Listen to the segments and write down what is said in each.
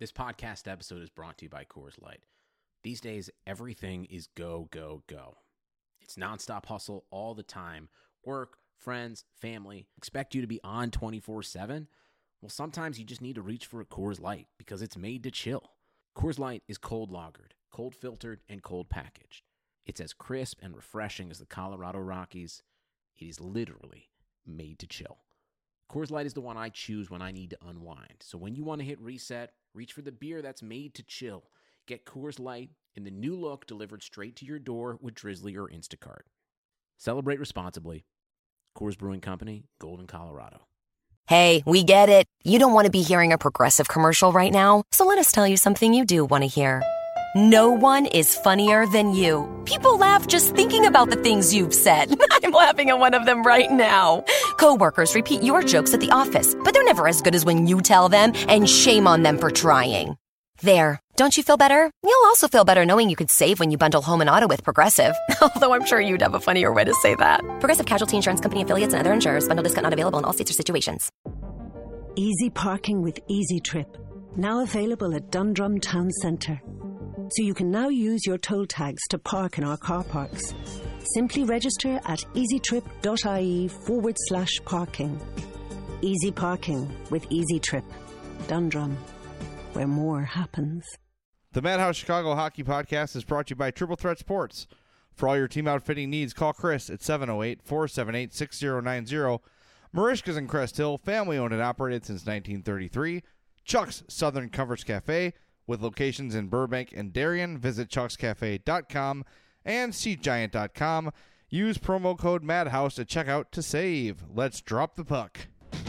This podcast episode is brought to you by Coors Light. These days, everything is go, go, go. It's nonstop hustle all the time. Work, friends, family, expect you to be on 24/7. Well, sometimes you just need to reach for a Coors Light because it's made to chill. Coors Light is cold lagered, cold filtered, and cold packaged. It's as crisp and refreshing as the Colorado Rockies. It is literally made to chill. Coors Light is the one I choose when I need to unwind. So when you want to hit reset, reach for the beer that's made to chill. Get Coors Light in the new look delivered straight to your door with Drizzly or Instacart. Celebrate responsibly. Coors Brewing Company, Golden, Colorado. Hey, we get it. You don't want to be hearing a Progressive commercial right now, so let us tell you something you do want to hear. No one is funnier than you. People laugh just thinking about the things you've said. I'm laughing at one of them right now. Coworkers repeat your jokes at the office, but they're never as good as when you tell them, and shame on them for trying. There. Don't you feel better? You'll also feel better knowing you could save when you bundle home and auto with Progressive. Although I'm sure you'd have a funnier way to say that. Progressive Casualty Insurance Company affiliates and other insurers. Bundle discount not available in all states or situations. Easy parking with Easy Trip. Now available at Dundrum Town Centre. So you can now use your toll tags to park in our car parks. Simply register at easytrip.ie/parking. Easy parking with Easy Trip. Dundrum, where more happens. The Madhouse Chicago Hockey Podcast is brought to you by Triple Threat Sports. For all your team outfitting needs, call Chris at 708-478-6090. Marishka's in Crest Hill, family owned and operated since 1933. Chuck's Southern Comforts Cafe, with locations in Burbank and Darien. Visit chuckscafe.com and seatgiant.com. Use promo code MADHOUSE at checkout to save. Let's drop the puck.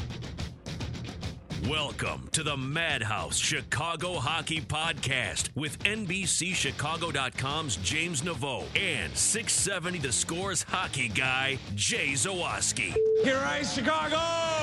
Welcome to the Madhouse Chicago Hockey Podcast with NBCChicago.com's James Naveau and 670 The Score's hockey guy, Jay Zawaski. Here I Chicago!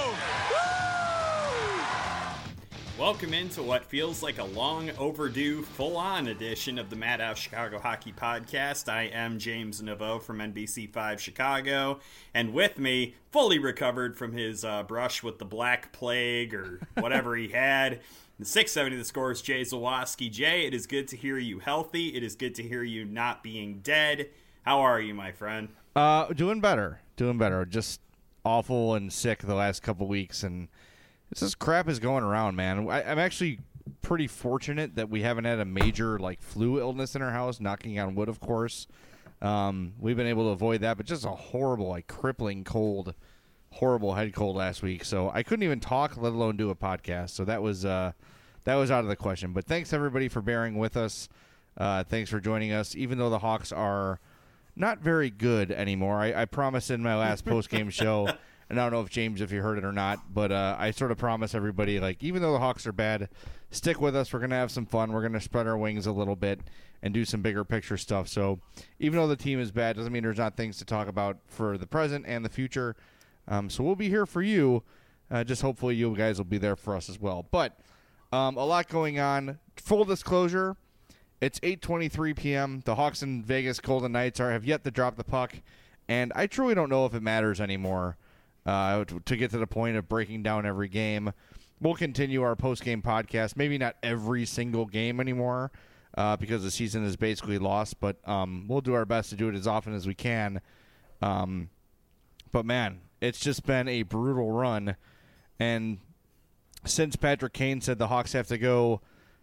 Welcome into what feels like a long overdue, full-on edition of the Madhouse Chicago Hockey Podcast. I am James Naveau from NBC5 Chicago, and with me, fully recovered from his brush with the Black Plague or whatever he had, the 670 The Score's Jay Zawaski. Jay, it is good to hear you healthy. It is good to hear you not being dead. How are you, my friend? Doing better. Just awful and sick the last couple weeks, and this crap is going around, man. I'm actually pretty fortunate that we haven't had a major flu illness in our house, knocking on wood, of course. We've been able to avoid that, but just a horrible, crippling cold, horrible head cold last week. So I couldn't even talk, let alone do a podcast. So that was out of the question. But thanks, everybody, for bearing with us. Thanks for joining us, even though the Hawks are not very good anymore. I promised in my last post-game show, and I don't know if James, if you heard it or not, but I sort of promise everybody, even though the Hawks are bad, stick with us. We're going to have some fun. We're going to spread our wings a little bit and do some bigger picture stuff. So even though the team is bad, doesn't mean there's not things to talk about for the present and the future. So we'll be here for you. Just hopefully you guys will be there for us as well. But a lot going on. Full disclosure, it's 8:23 p.m. The Hawks and Vegas Golden Knights have yet to drop the puck, and I truly don't know if it matters anymore. To get to the point of breaking down every game. We'll continue our post-game podcast. Maybe not every single game anymore because the season is basically lost, but we'll do our best to do it as often as we can. But, man, it's just been a brutal run. And since Patrick Kane said the Hawks have to go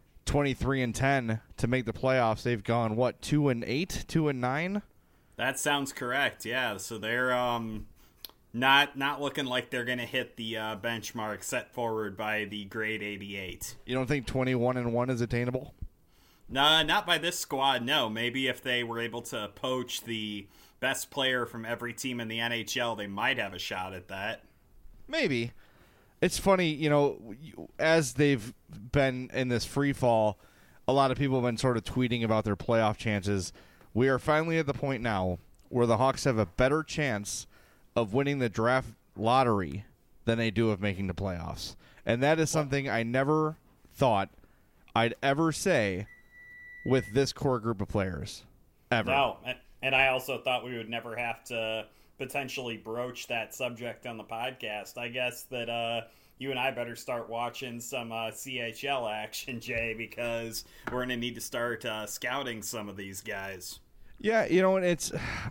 23-10 to make the playoffs, they've gone, 2-8, 2-9? That sounds correct, yeah. So they're Not looking like they're going to hit the benchmark set forward by the grade 88. You don't think 21-1 is attainable? No, not by this squad, no. Maybe if they were able to poach the best player from every team in the NHL, they might have a shot at that. Maybe. It's funny, as they've been in this free fall, a lot of people have been sort of tweeting about their playoff chances. We are finally at the point now where the Hawks have a better chance of winning the draft lottery than they do of making the playoffs. And that is something I never thought I'd ever say with this core group of players. Ever. No, and I also thought we would never have to potentially broach that subject on the podcast. I guess that you and I better start watching some CHL action, Jay, because we're going to need to start scouting some of these guys. Yeah, it's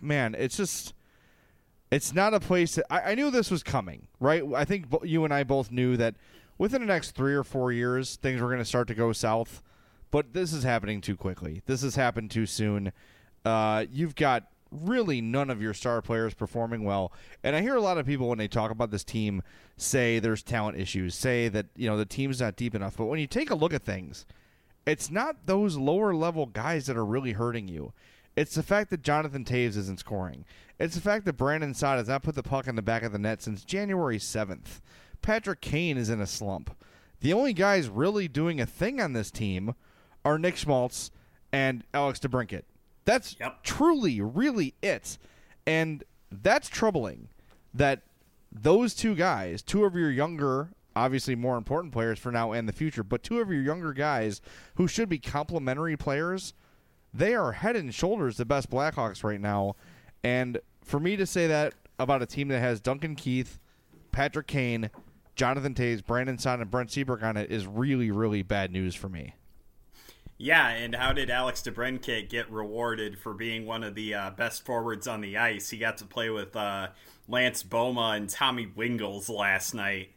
not a place that I knew this was coming, right? I think you and I both knew that within the next 3 or 4 years, things were going to start to go south. But this is happening too quickly. This has happened too soon. You've got really none of your star players performing well. And I hear a lot of people when they talk about this team say there's talent issues, say that the team's not deep enough. But when you take a look at things, it's not those lower level guys that are really hurting you. It's the fact that Jonathan Toews isn't scoring. It's the fact that Brandon Saad has not put the puck in the back of the net since January 7th. Patrick Kane is in a slump. The only guys really doing a thing on this team are Nick Schmaltz and Alex DeBrincat. That's truly, really it. And that's troubling that those two guys, two of your younger, obviously more important players for now and the future, but two of your younger guys who should be complementary players, they are head and shoulders the best Blackhawks right now. And for me to say that about a team that has Duncan Keith, Patrick Kane, Jonathan Toews, Brandon Saad, and Brent Seabrook on it is really, really bad news for me. Yeah, and how did Alex DeBrincat get rewarded for being one of the best forwards on the ice? He got to play with Lance Boma and Tommy Wingels last night.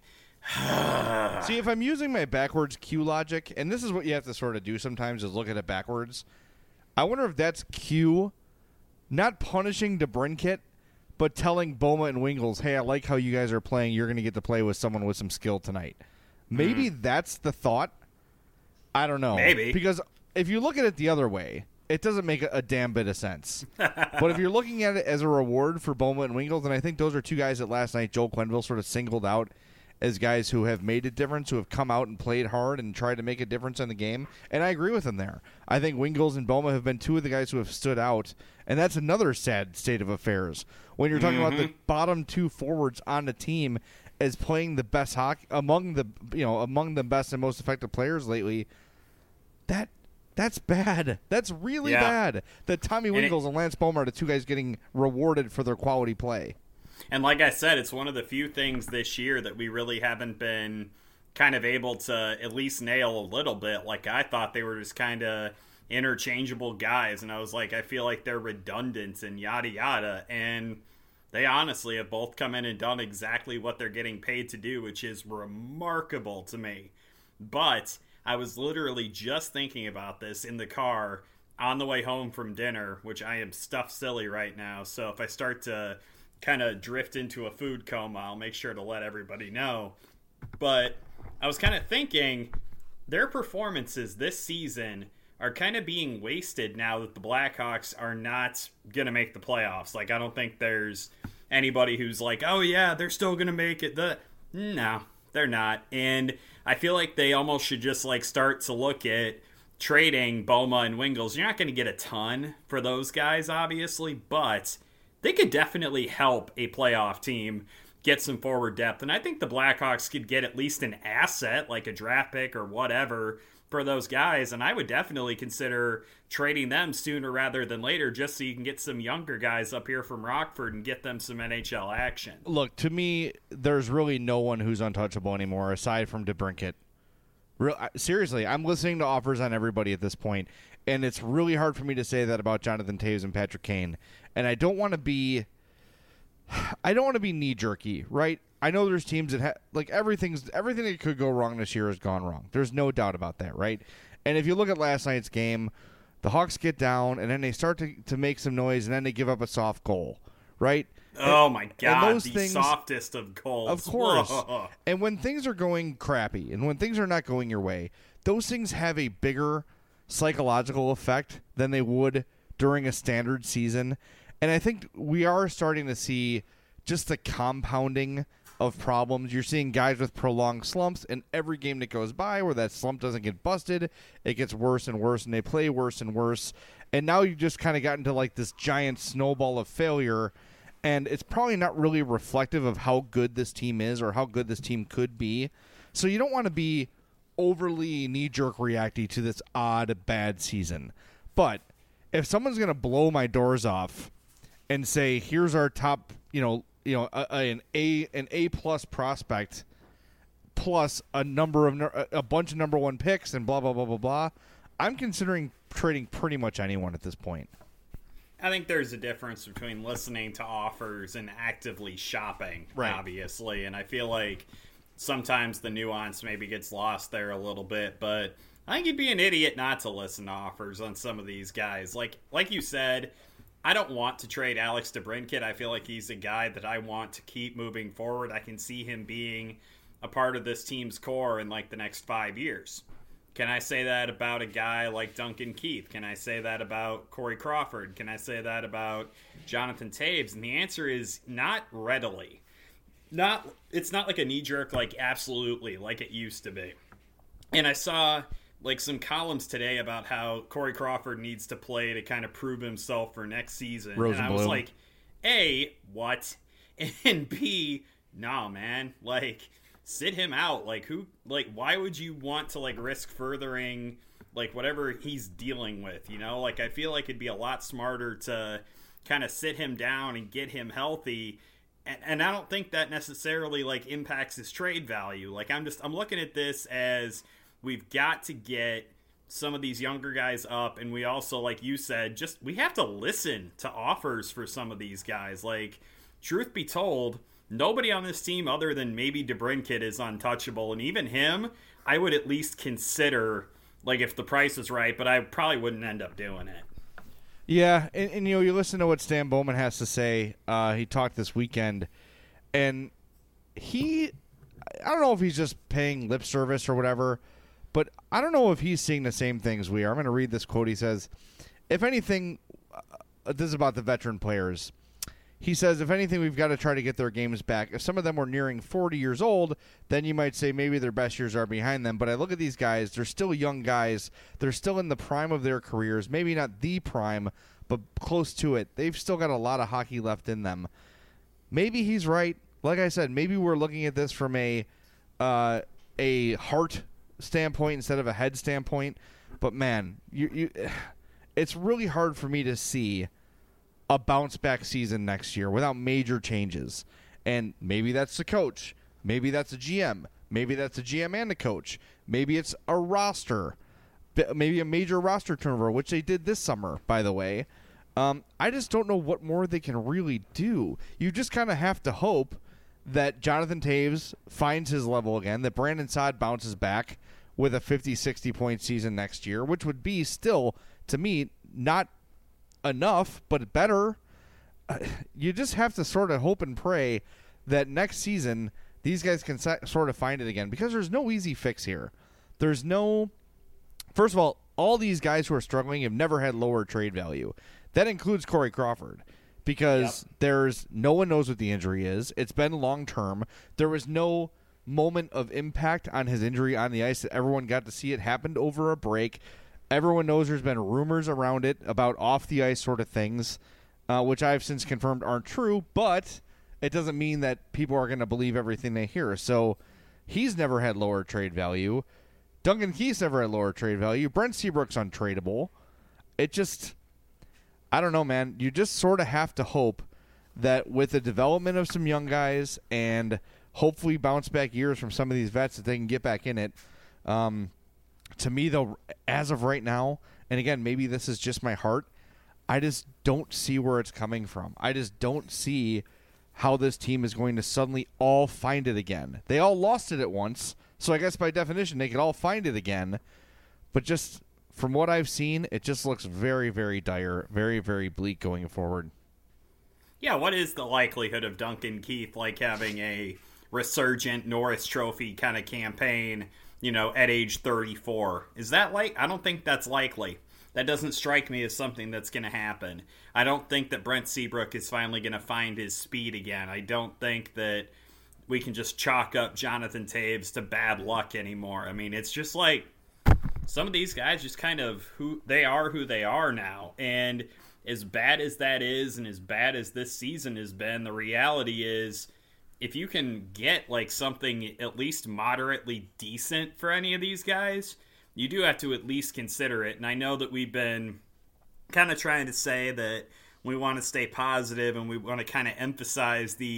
See, if I'm using my backwards Q logic, and this is what you have to sort of do sometimes is look at it backwards, I wonder if that's Q not punishing DeBrincat, but telling Boma and Wingels, hey, I like how you guys are playing. You're going to get to play with someone with some skill tonight. Maybe that's the thought. I don't know. Maybe. Because if you look at it the other way, it doesn't make a damn bit of sense. But if you're looking at it as a reward for Boma and Wingels, and I think those are two guys that last night Joel Quenneville sort of singled out as guys who have made a difference, who have come out and played hard and tried to make a difference in the game. And I agree with him there. I think Wingels and Boma have been two of the guys who have stood out, and that's another sad state of affairs. When you're talking about the bottom two forwards on the team as playing the best hockey among the best and most effective players lately, that's bad. That's really bad. That Tommy Wingels and Lance Boma are the two guys getting rewarded for their quality play. And like I said, it's one of the few things this year that we really haven't been kind of able to at least nail a little bit. Like, I thought they were just kind of interchangeable guys, and I was like, I feel like they're redundant and yada yada. And they honestly have both come in and done exactly what they're getting paid to do, which is remarkable to me. But I was literally just thinking about this in the car on the way home from dinner, which I am stuffed silly right now. So if I start to kind of drift into a food coma, I'll make sure to let everybody know. But I was kind of thinking their performances this season are kind of being wasted now that the Blackhawks are not going to make the playoffs. Like, I don't think there's anybody who's like, oh yeah, they're still going to make it. No, they're not. And I feel like they almost should just like start to look at trading Boma and Wingels. You're not going to get a ton for those guys, obviously, but they could definitely help a playoff team get some forward depth. And I think the Blackhawks could get at least an asset, like a draft pick or whatever, for those guys. And I would definitely consider trading them sooner rather than later, just so you can get some younger guys up here from Rockford and get them some NHL action. Look, to me, there's really no one who's untouchable anymore aside from DeBrincat. Seriously, I'm listening to offers on everybody at this point, and it's really hard for me to say that about Jonathan Toews and Patrick Kane. And I don't want to be knee-jerky, right? I know there's teams that everything that could go wrong this year has gone wrong. There's no doubt about that, right? And if you look at last night's game, the Hawks get down, and then they start to make some noise, and then they give up a soft goal, right? Oh, my God, the softest of goals. Of course. Whoa. And when things are going crappy and when things are not going your way, those things have a bigger psychological effect than they would during a standard season. And I think we are starting to see just the compounding of problems. You're seeing guys with prolonged slumps, and every game that goes by where that slump doesn't get busted, it gets worse and worse, and they play worse and worse. And now you just kind of got into like this giant snowball of failure, and it's probably not really reflective of how good this team is or how good this team could be. So you don't want to be overly knee-jerk reacting to this odd, bad season. But if someone's going to blow my doors off and say, here's our top, an A+ prospect, plus a bunch of number one picks and blah, blah, blah, blah, blah. I'm considering trading pretty much anyone at this point. I think there's a difference between listening to offers and actively shopping, obviously. And I feel like sometimes the nuance maybe gets lost there a little bit. But I think you'd be an idiot not to listen to offers on some of these guys. Like you said, I don't want to trade Alex DeBrincat. I feel like he's a guy that I want to keep moving forward. I can see him being a part of this team's core in like the next 5 years. Can I say that about a guy like Duncan Keith? Can I say that about Corey Crawford? Can I say that about Jonathan Toews? And the answer is not readily. It's not like a knee-jerk, like absolutely, like it used to be. And I saw like some columns today about how Corey Crawford needs to play to kind of prove himself for next season. And I was like, A, what? And B, no, man. Like, sit him out. Why would you want to like risk furthering like whatever he's dealing with, you know? Like, I feel like it'd be a lot smarter to kind of sit him down and get him healthy. And I don't think that necessarily like impacts his trade value. Like, I'm looking at this as we've got to get some of these younger guys up, and we also, like you said, we have to listen to offers for some of these guys. Like, truth be told, nobody on this team other than maybe DeBrincat is untouchable, and even him, I would at least consider, like, if the price is right, but I probably wouldn't end up doing it. Yeah, and you know, you listen to what Stan Bowman has to say. He talked this weekend, and I don't know if he's just paying lip service or whatever, but I don't know if he's seeing the same things we are. I'm going to read this quote. He says, if anything, this is about the veteran players. He says, if anything, we've got to try to get their games back. If some of them were nearing 40 years old, then you might say maybe their best years are behind them. But I look at these guys. They're still young guys. They're still in the prime of their careers. Maybe not the prime, but close to it. They've still got a lot of hockey left in them. Maybe he's right. Like I said, maybe we're looking at this from a heart standpoint instead of a head standpoint. But, man, it's really hard for me to see a bounce-back season next year without major changes. And maybe that's the coach. Maybe that's a GM. Maybe that's a GM and a coach. Maybe it's a roster. Maybe a major roster turnover, which they did this summer, by the way. I just don't know what more they can really do. You just kind of have to hope that Jonathan Toews finds his level again, that Brandon Saad bounces back with a 50, 60-point season next year, which would be still, to me, not enough, but better. You just have to sort of hope and pray that next season these guys can sort of find it again, because there's no easy fix here. There's no... First of all these guys who are struggling have never had lower trade value. That includes Corey Crawford, because there's no one knows what the injury is. It's been long-term. There was no moment of impact on his injury on the ice that everyone got to see. It happened over a break. Everyone knows there's been rumors around it about off-the-ice sort of things, which I've since confirmed aren't true, but it doesn't mean that people are going to believe everything they hear. So he's never had lower trade value. Duncan Keith's never had lower trade value. Brent Seabrook's untradeable. It just, I don't know, man. You just sort of have to hope that with the development of some young guys and hopefully bounce-back years from some of these vets that they can get back in it. To me, though, as of right now, and again, maybe this is just my heart, I just don't see where it's coming from. I just don't see how this team is going to suddenly all find it again. They all lost it at once, so I guess by definition they could all find it again. But just from what I've seen, it just looks very, very dire, very, very bleak going forward. Yeah, what is the likelihood of Duncan Keith like having a resurgent Norris Trophy kind of campaign, you know, at age 34? Is that I don't think that's likely. That doesn't strike me as something that's going to happen. I don't think that Brent Seabrook is finally going to find his speed again. I don't think that we can just chalk up Jonathan Toews to bad luck anymore. I mean, it's just like some of these guys just kind of who they are now. And as bad as that is, and as bad as this season has been, the reality is if you can get like something at least moderately decent for any of these guys, you do have to at least consider it. And I know that we've been kind of trying to say that we want to stay positive and we want to kind of emphasize the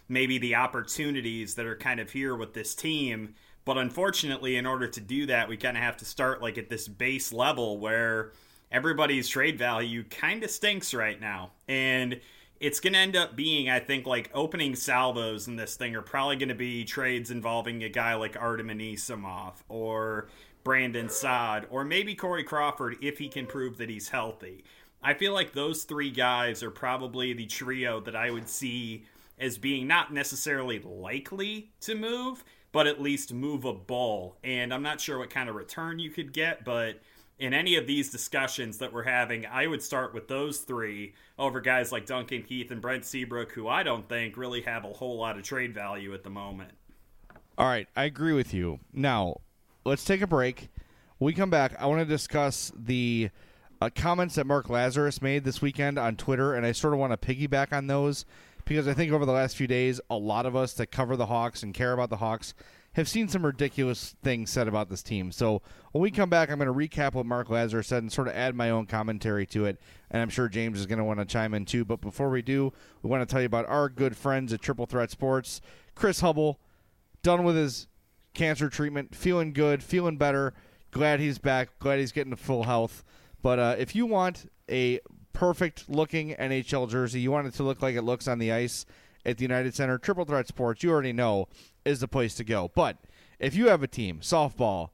maybe the opportunities that are kind of here with this team. But unfortunately, in order to do that, we kind of have to start like at this base level where everybody's trade value kind of stinks right now. And it's going to end up being, I think, like opening salvos in this thing are probably going to be trades involving a guy like Artem Anisimov or Brandon Saad or maybe Corey Crawford if he can prove that he's healthy. I feel like those three guys are probably the trio that I would see as being not necessarily likely to move, but at least movable. And I'm not sure what kind of return you could get, but in any of these discussions that we're having, I would start with those three over guys like Duncan Keith and Brent Seabrook, who I don't think really have a whole lot of trade value at the moment. All right, I agree with you. Now, let's take a break. When we come back, I want to discuss the comments that Mark Lazarus made this weekend on Twitter, and I sort of want to piggyback on those because I think over the last few days, a lot of us that cover the Hawks and care about the Hawks have seen some ridiculous things said about this team. So when we come back, I'm going to recap what Mark Lazarus said and sort of add my own commentary to it, and I'm sure James is going to want to chime in too. But before we do, we want to tell you about our good friends at Triple Threat Sports. Chris Hubble, done with his cancer treatment, feeling good, feeling better, glad he's back, glad he's getting to full health. But if you want a perfect-looking NHL jersey, you want it to look like it looks on the ice at the United Center, Triple Threat Sports, you already know, is the place to go. But if you have a team, softball,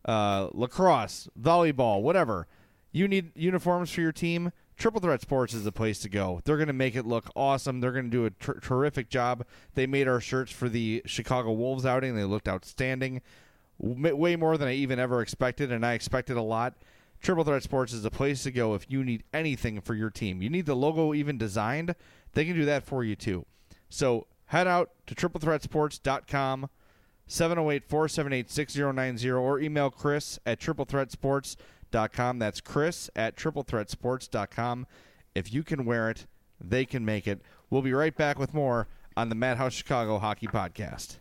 lacrosse, volleyball, whatever, you need uniforms for your team, Triple Threat Sports is the place to go. They're going to make it look awesome. They're going to do a terrific job. They made our shirts for the Chicago Wolves outing. They looked outstanding, way more than I even ever expected, and I expected a lot. Triple Threat Sports is the place to go if you need anything for your team. You need the logo even designed, they can do that for you too. So head out to triplethreatsports.com, 708-478-6090, or email Chris at triplethreatsports.com. That's Chris at triplethreatsports.com. If you can wear it, they can make it. We'll be right back with more on the Madhouse Chicago Hockey Podcast.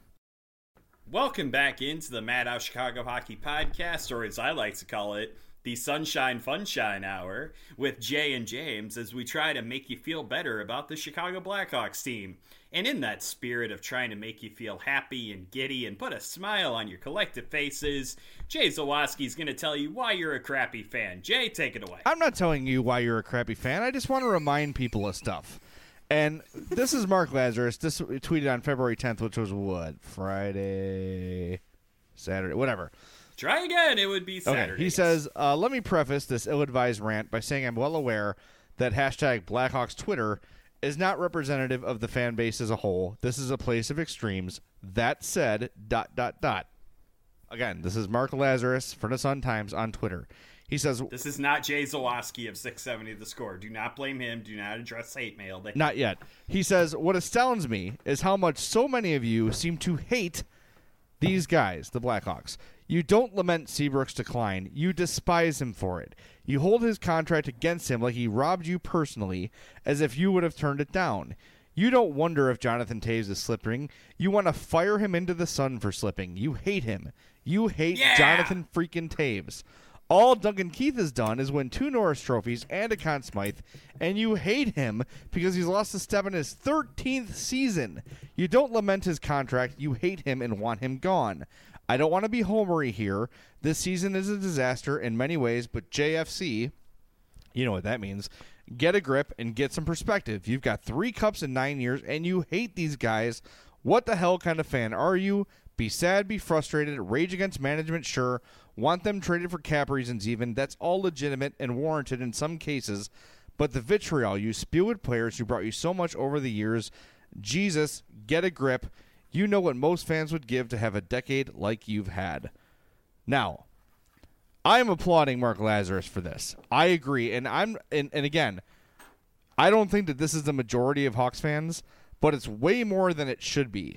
Welcome back into the Madhouse Chicago Hockey Podcast, or as I like to call it, the Sunshine Funshine Hour with Jay and James, as we try to make you feel better about the Chicago Blackhawks team. And in that spirit of trying to make you feel happy and giddy and put a smile on your collective faces, Jay Zawoski is going to tell you why you're a crappy fan. Jay, take it away. I'm not telling you why you're a crappy fan. I just want to remind people of stuff. And this is Mark Lazarus. This tweeted on February 10th, which was what? Friday? Saturday? Whatever. Try again. It would be Saturday. Okay. He says, let me preface this ill-advised rant by saying I'm well aware that hashtag Blackhawks Twitter is not representative of the fan base as a whole. This is a place of extremes. That said, ... Again, this is Mark Lazarus for the Sun-Times on Twitter. He says, this is not Jay Zawoski of 670 The Score. Do not blame him. Do not address hate mail. Not yet. He says, what astounds me is how much so many of you seem to hate these guys, the Blackhawks. You don't lament Seabrook's decline. You despise him for it. You hold his contract against him like he robbed you personally, as if you would have turned it down. You don't wonder if Jonathan Toews is slipping. You want to fire him into the sun for slipping. You hate him. You hate Jonathan freaking Toews. All Duncan Keith has done is win 2 Norris trophies and a Conn Smythe, and you hate him because he's lost a step in his 13th season. You don't lament his contract. You hate him and want him gone. I don't want to be homery here. This season is a disaster in many ways, but JFC, you know what that means. Get a grip and get some perspective. You've got 3 cups in 9 years, and you hate these guys. What the hell kind of fan are you? Be sad, be frustrated, rage against management, sure. Want them traded for cap reasons even. That's all legitimate and warranted in some cases. But the vitriol you spew at players who brought you so much over the years, Jesus, get a grip. You know what most fans would give to have a decade like you've had. Now, I'm applauding Mark Lazarus for this. I agree, and again, I don't think that this is the majority of Hawks fans, but it's way more than it should be.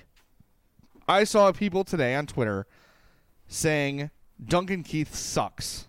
I saw people today on Twitter saying Duncan Keith sucks.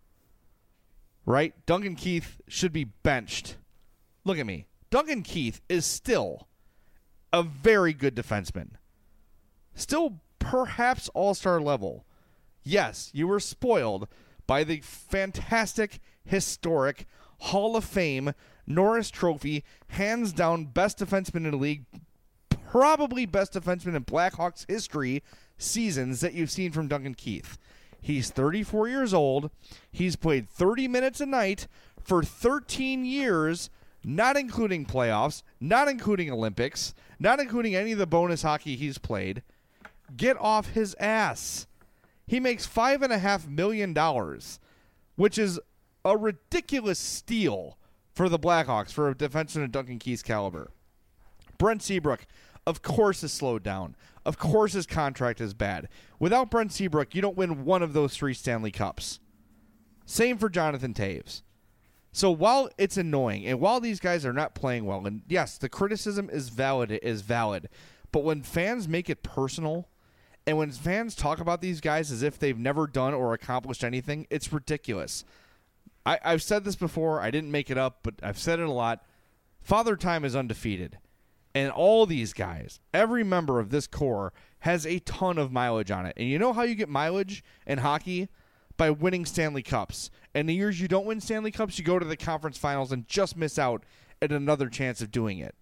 Right? Duncan Keith should be benched. Look at me. Duncan Keith is still a very good defenseman. Still perhaps all-star level. Yes, you were spoiled by the fantastic, historic, Hall of Fame, Norris Trophy, hands down best defenseman in the league, probably best defenseman in Blackhawks history seasons that you've seen from Duncan Keith. He's 34 years old. He's played 30 minutes a night for 13 years, not including playoffs, not including Olympics, not including any of the bonus hockey he's played. Get off his ass. He makes $5.5 million, which is a ridiculous steal for the Blackhawks for a defenseman of Duncan Keith's caliber. Brent Seabrook, of course, is slowed down. Of course his contract is bad. Without Brent Seabrook, you don't win one of those 3 Stanley Cups. Same for Jonathan Toews. So while it's annoying, and while these guys are not playing well, and yes, the criticism is valid, but when fans make it personal, and when fans talk about these guys as if they've never done or accomplished anything, it's ridiculous. I've said this before. I didn't make it up, but I've said it a lot. Father Time is undefeated. And all these guys, every member of this core, has a ton of mileage on it. And you know how you get mileage in hockey? By winning Stanley Cups. And the years you don't win Stanley Cups, you go to the conference finals and just miss out at another chance of doing it.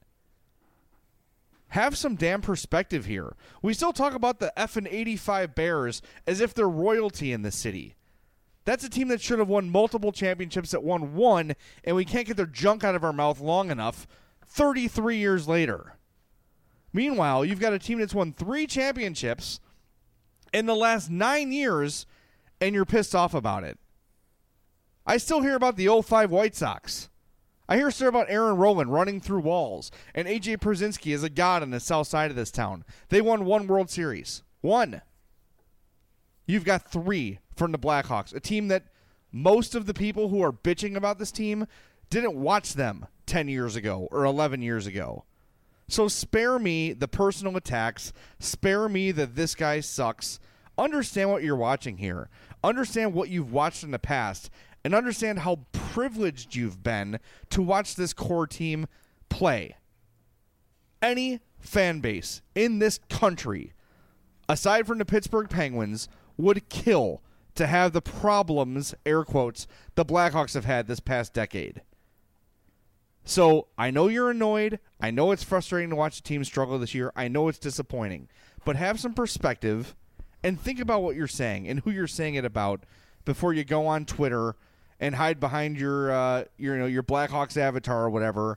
Have some damn perspective here. We still talk about the effing 85 Bears as if they're royalty in this city. That's a team that should have won multiple championships that won one, and we can't get their junk out of our mouth long enough 33 years later. Meanwhile, you've got a team that's won 3 championships in the last 9 years, and you're pissed off about it. I still hear about the 05 White Sox. I hear story about Aaron Rowland running through walls, and A.J. Przinsky is a god on the south side of this town. They won 1 World Series. 1. You've got 3 from the Blackhawks, a team that most of the people who are bitching about this team didn't watch them 10 years ago or 11 years ago. So spare me the personal attacks. Spare me that this guy sucks. Understand what you're watching here. Understand what you've watched in the past. And understand how privileged you've been to watch this core team play. Any fan base in this country, aside from the Pittsburgh Penguins, would kill to have the problems, air quotes, the Blackhawks have had this past decade. So I know you're annoyed. I know it's frustrating to watch the team struggle this year. I know it's disappointing. But have some perspective and think about what you're saying and who you're saying it about before you go on Twitter and hide behind your Blackhawks avatar or whatever.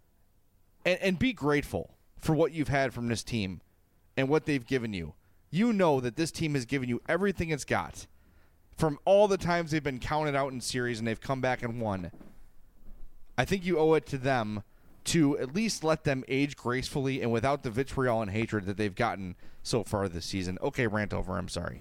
And be grateful for what you've had from this team and what they've given you. You know that this team has given you everything it's got. From all the times they've been counted out in series and they've come back and won. I think you owe it to them to at least let them age gracefully and without the vitriol and hatred that they've gotten so far this season. Okay, rant over. I'm sorry.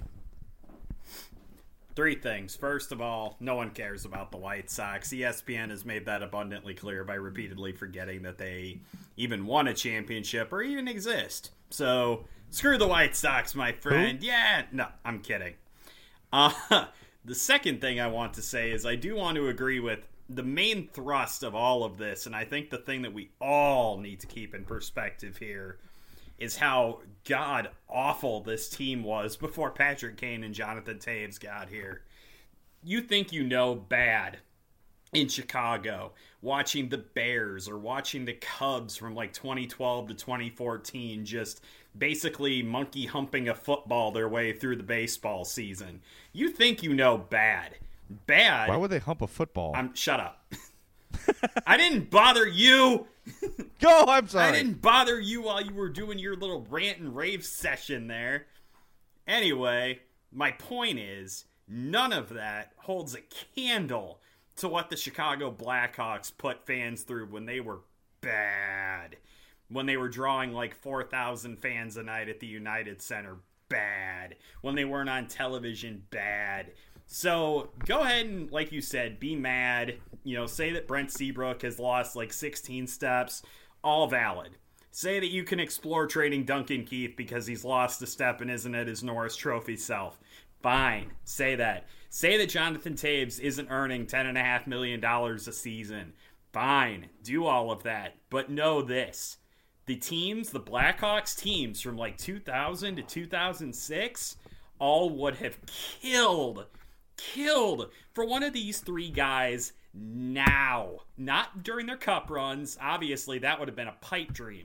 3 things. First of all, no one cares about the White Sox. ESPN has made that abundantly clear by repeatedly forgetting that they even won a championship or even exist. So, screw the White Sox, my friend. Who? Yeah, no, I'm kidding. The second thing I want to say is I do want to agree with the main thrust of all of this, and I think the thing that we all need to keep in perspective here is how god-awful this team was before Patrick Kane and Jonathan Toews got here. You think you know bad in Chicago, watching the Bears or watching the Cubs from like 2012 to 2014 just basically monkey humping a football their way through the baseball season. You think you know bad. Bad. Why would they hump a football? Shut up. I didn't bother you. Go, I'm sorry. I didn't bother you while you were doing your little rant and rave session there. Anyway, my point is, none of that holds a candle to what the Chicago Blackhawks put fans through when they were bad. When they were drawing like 4,000 fans a night at the United Center. Bad. When they weren't on television. Bad. So go ahead and, like you said, be mad. Say that Brent Seabrook has lost like 16 steps. All valid. Say that you can explore trading Duncan Keith because he's lost a step and isn't at his Norris Trophy self. Fine. Say that. Say that Jonathan Toews isn't earning $10.5 million a season. Fine. Do all of that. But know this. The Blackhawks teams from like 2000 to 2006 all would have killed for one of these 3 guys now. Not during their cup runs. Obviously, that would have been a pipe dream.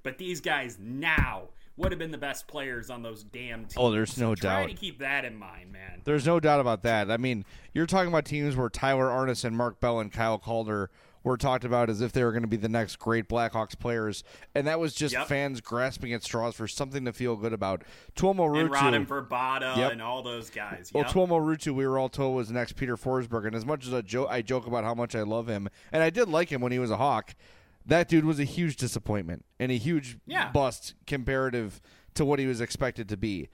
but these guys now would have been the best players on those damn teams. Oh, there's no doubt. Try to keep that in mind, man. There's no doubt about that. I mean, you're talking about teams where Tyler Arnesen, Mark Bell, and Kyle Calder were talked about as if they were going to be the next great Blackhawks players, and that was just fans grasping at straws for something to feel good about. Tuomo Ruutu. And Radim Verbata and all those guys. Well, Tuomo Ruutu, we were all told, was the next Peter Forsberg, and as much as I joke about how much I love him, and I did like him when he was a Hawk, that dude was a huge disappointment and a huge bust comparative to what he was expected to be.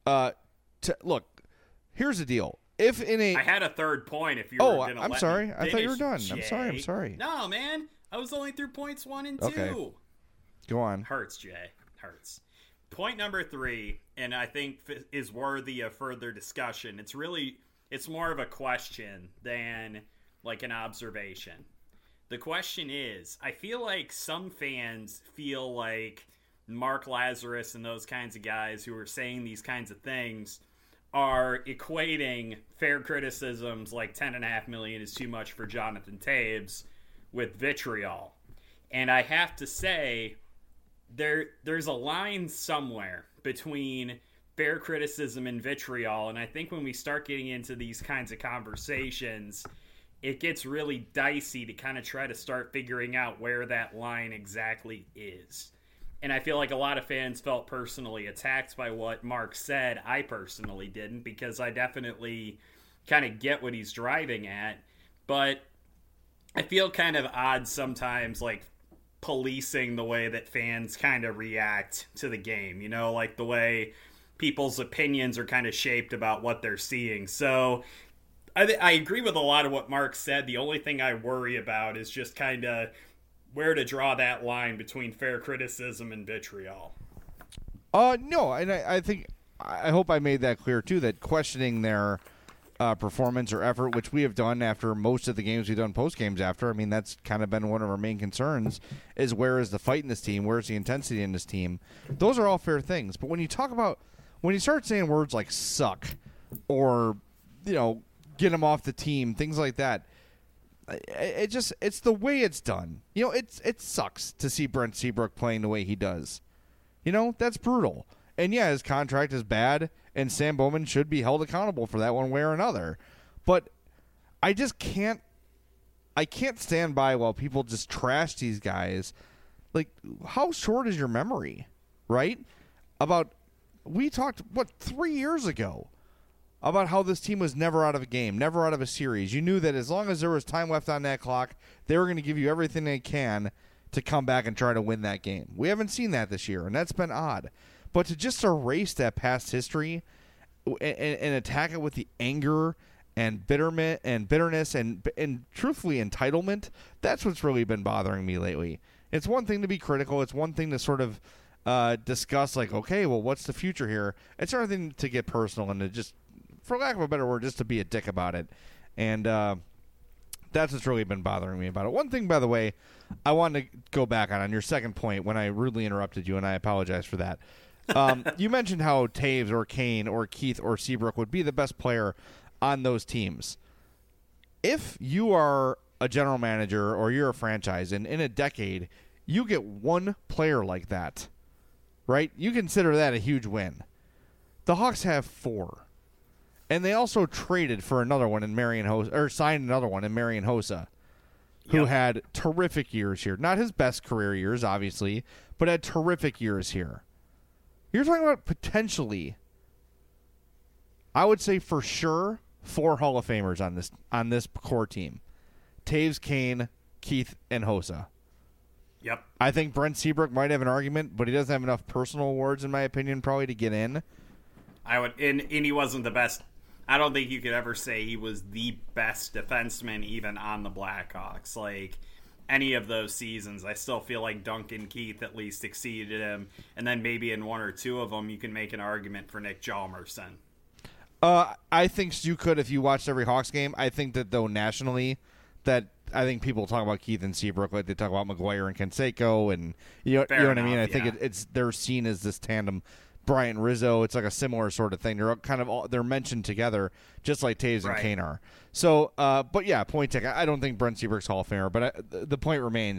Look, here's the deal. I had a third point if you were going to I'm sorry. I thought you were done. Jay. I'm sorry. No, man. I was only through points 1 and 2. Okay. Go on. Hurts, Jay. Hurts. Point number 3, and I think is worthy of further discussion. It's more of a question than like an observation. The question is, I feel like some fans feel like Mark Lazarus and those kinds of guys who are saying these kinds of things are equating fair criticisms like $10.5 million is too much for Jonathan Toews with vitriol. And I have to say, there's a line somewhere between fair criticism and vitriol, and I think when we start getting into these kinds of conversations, it gets really dicey to kind of try to start figuring out where that line exactly is. And I feel like a lot of fans felt personally attacked by what Mark said. I personally didn't, because I definitely kind of get what he's driving at. But I feel kind of odd sometimes, like, policing the way that fans kind of react to the game. You know, like the way people's opinions are kind of shaped about what they're seeing. So I agree with a lot of what Mark said. The only thing I worry about is just kind of where to draw that line between fair criticism and vitriol. No, and I hope I made that clear too, that questioning their performance or effort, which we have done after most of the games we've done post games after. I mean, that's kind of been one of our main concerns, is where is the fight in this team? Where's the intensity in this team? Those are all fair things. But when you start saying words like suck or, get them off the team, things like that, it's the way it's done. It sucks to see Brent Seabrook playing the way he does. That's brutal. And yeah, his contract is bad, and Sam Bowman should be held accountable for that one way or another. But I just can't stand by while people just trash these guys. Like, how short is your memory, right? We talked, 3 years ago about how this team was never out of a game, never out of a series. You knew that as long as there was time left on that clock, they were going to give you everything they can to come back and try to win that game. We haven't seen that this year, and that's been odd. But to just erase that past history and attack it with the anger and bitterness and truthfully entitlement, that's what's really been bothering me lately. It's one thing to be critical. It's one thing to sort of discuss, like, okay, well, what's the future here? It's another thing to get personal and to just, for lack of a better word, just to be a dick about it. And that's what's really been bothering me about it. One thing, by the way, I wanted to go back on your second point when I rudely interrupted you, and I apologize for that. You mentioned how Toews or Kane or Keith or Seabrook would be the best player on those teams. If you are a general manager or you're a franchise, and in a decade you get one player like that, right? You consider that a huge win. The Hawks have 4. And they also traded for another one in Marian Hossa, or signed another one in Marian Hossa, who had terrific years here. Not his best career years, obviously, but had terrific years here. You're talking about potentially, I would say for sure, 4 Hall of Famers on this core team. Toews, Kane, Keith, and Hossa. Yep. I think Brent Seabrook might have an argument, but he doesn't have enough personal awards, in my opinion, probably to get in. And he wasn't the best. I don't think you could ever say he was the best defenseman even on the Blackhawks. Like, any of those seasons, I still feel like Duncan Keith at least exceeded him. And then maybe in 1 or 2 of them, you can make an argument for Nick Hjalmarsson. I think you could if you watched every Hawks game. I think that, though, nationally, that I think people talk about Keith and Seabrook like they talk about McGuire and Canseco. And you know what I mean? I think they're seen as this tandem. Bryant Rizzo, it's like a similar sort of thing. They're kind of they're mentioned together, just like Toews and Kane are. So, but yeah, point taken. I don't think Brent Seabrook's Hall of Famer, but the point remains: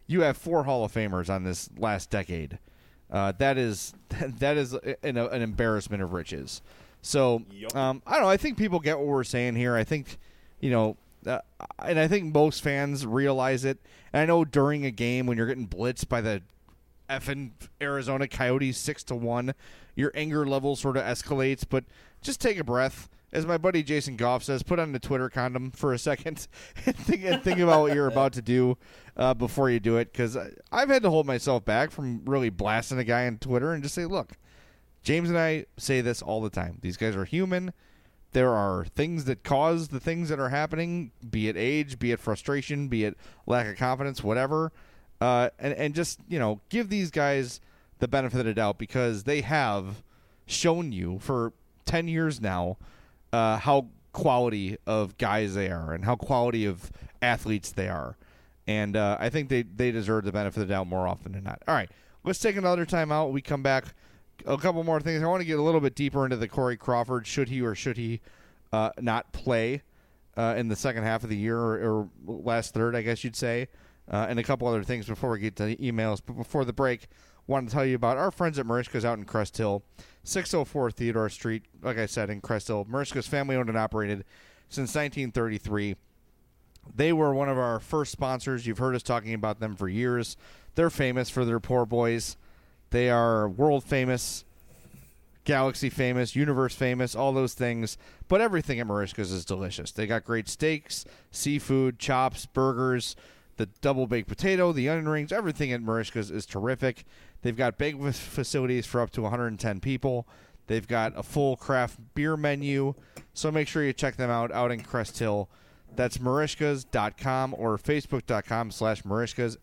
you have 4 Hall of Famers on this last decade. That is an embarrassment of riches. So Yep. I don't know. I think people get what we're saying here. I think, and I think most fans realize it. And I know during a game when you're getting blitzed by the effing Arizona Coyotes 6-1, your anger level sort of escalates. But just take a breath. As my buddy Jason Goff says, put on the Twitter condom for a second and think about what you're about to do before you do it. Because I've had to hold myself back from really blasting a guy on Twitter and just say, look, James and I say this all the time. These guys are human. There are things that cause the things that are happening, be it age, be it frustration, be it lack of confidence, whatever. And just, give these guys the benefit of the doubt because they have shown you for 10 years now how quality of guys they are and how quality of athletes they are. And I think they deserve the benefit of the doubt more often than not. All right, let's take another time out. We come back. A couple more things. I want to get a little bit deeper into the Corey Crawford. Should he or should he not play in the second half of the year or last third, I guess you'd say. And a couple other things before we get to the emails. But before the break, wanted to tell you about our friends at Merichka's out in Crest Hill, 604 Theodore Street, like I said, in Crest Hill. Merichka's family-owned and operated since 1933. They were one of our first sponsors. You've heard us talking about them for years. They're famous for their poor boys. They are world famous, galaxy famous, universe famous, all those things. But everything at Merichka's is delicious. They got great steaks, seafood, chops, burgers, the double baked potato, the onion rings. Everything at Merichka's is terrific. They've got banquet facilities for up to 110 people. They've got a full craft beer menu. So make sure you check them out in Crest Hill. That's Merichkas.com or Facebook.com/Merichkas,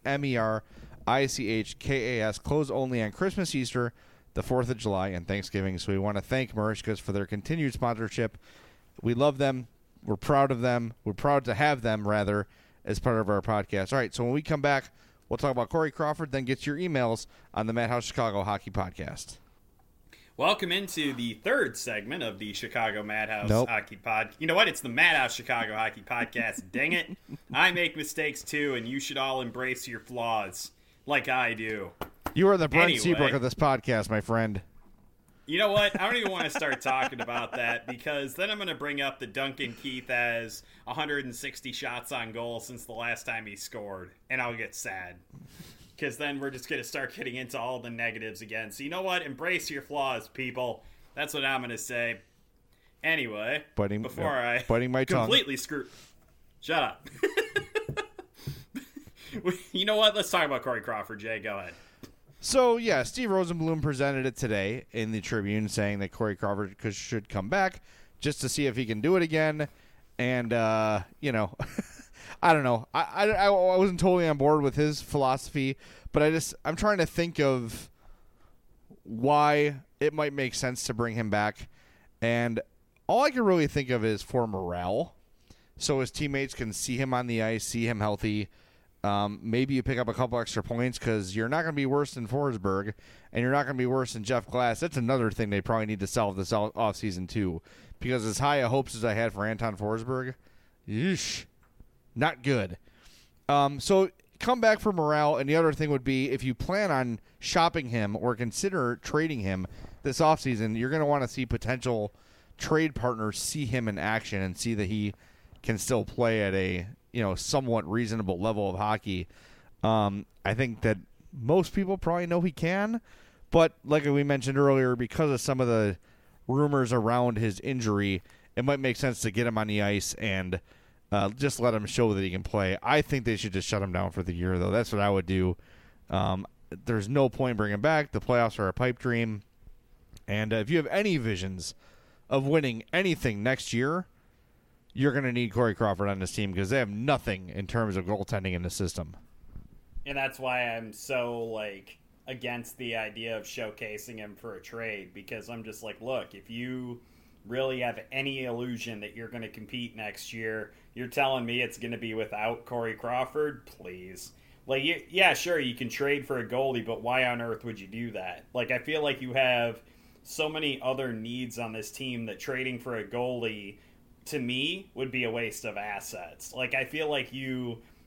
MERICHKAS. Closed only on Christmas, Easter, the 4th of July, and Thanksgiving. So we want to thank Merichkas for their continued sponsorship. We love them. We're proud of them. We're proud to have them, rather, as part of our podcast. All right, so when we come back, we'll talk about Corey Crawford, then get your emails on the Madhouse Chicago Hockey Podcast. Welcome into the third segment of the Chicago Madhouse Nope. Hockey Pod. You know what? It's the Madhouse Chicago Hockey Podcast. Dang it. I make mistakes too, and you should all embrace your flaws like I do. You are the Brent Anyway. Seabrook of this podcast, my friend. You know what? I don't even want to start talking about that because then I'm going to bring up the Duncan Keith has 160 shots on goal since the last time he scored, and I'll get sad. Because then we're just going to start getting into all the negatives again. So you know what? Embrace your flaws, people. That's what I'm going to say. Anyway, before I biting my tongue. completely screw... Shut up. You know what? Let's talk about Corey Crawford, Jay. Go ahead. So, yeah, Steve Rosenblum presented it today in the Tribune saying that Corey Crawford should come back just to see if he can do it again. And, I don't know. I wasn't totally on board with his philosophy, but I'm trying to think of why it might make sense to bring him back. And all I can really think of is for morale. So his teammates can see him on the ice, see him healthy. Maybe you pick up a couple extra points because you're not going to be worse than Forsberg, and you're not going to be worse than Jeff Glass. That's another thing they probably need to solve this offseason, too. Because as high of hopes as I had for Anton Forsberg, yeesh, not good. So come back for morale, and the other thing would be if you plan on shopping him or consider trading him this offseason, you're going to want to see potential trade partners see him in action and see that he can still play at a somewhat reasonable level of hockey. I think that most people probably know he can, but like we mentioned earlier, because of some of the rumors around his injury, it might make sense to get him on the ice and just let him show that he can play. I think they should just shut him down for the year, though. That's what I would do. There's no point in bringing him back. The playoffs are a pipe dream. And if you have any visions of winning anything next year, you're going to need Corey Crawford on this team because they have nothing in terms of goaltending in the system. And that's why I'm so, against the idea of showcasing him for a trade, because I'm just like, look, if you really have any illusion that you're going to compete next year, you're telling me it's going to be without Corey Crawford? Please. Yeah, sure, you can trade for a goalie, but why on earth would you do that? I feel like you have so many other needs on this team that trading for a goalie, to me, would be a waste of assets. I feel like you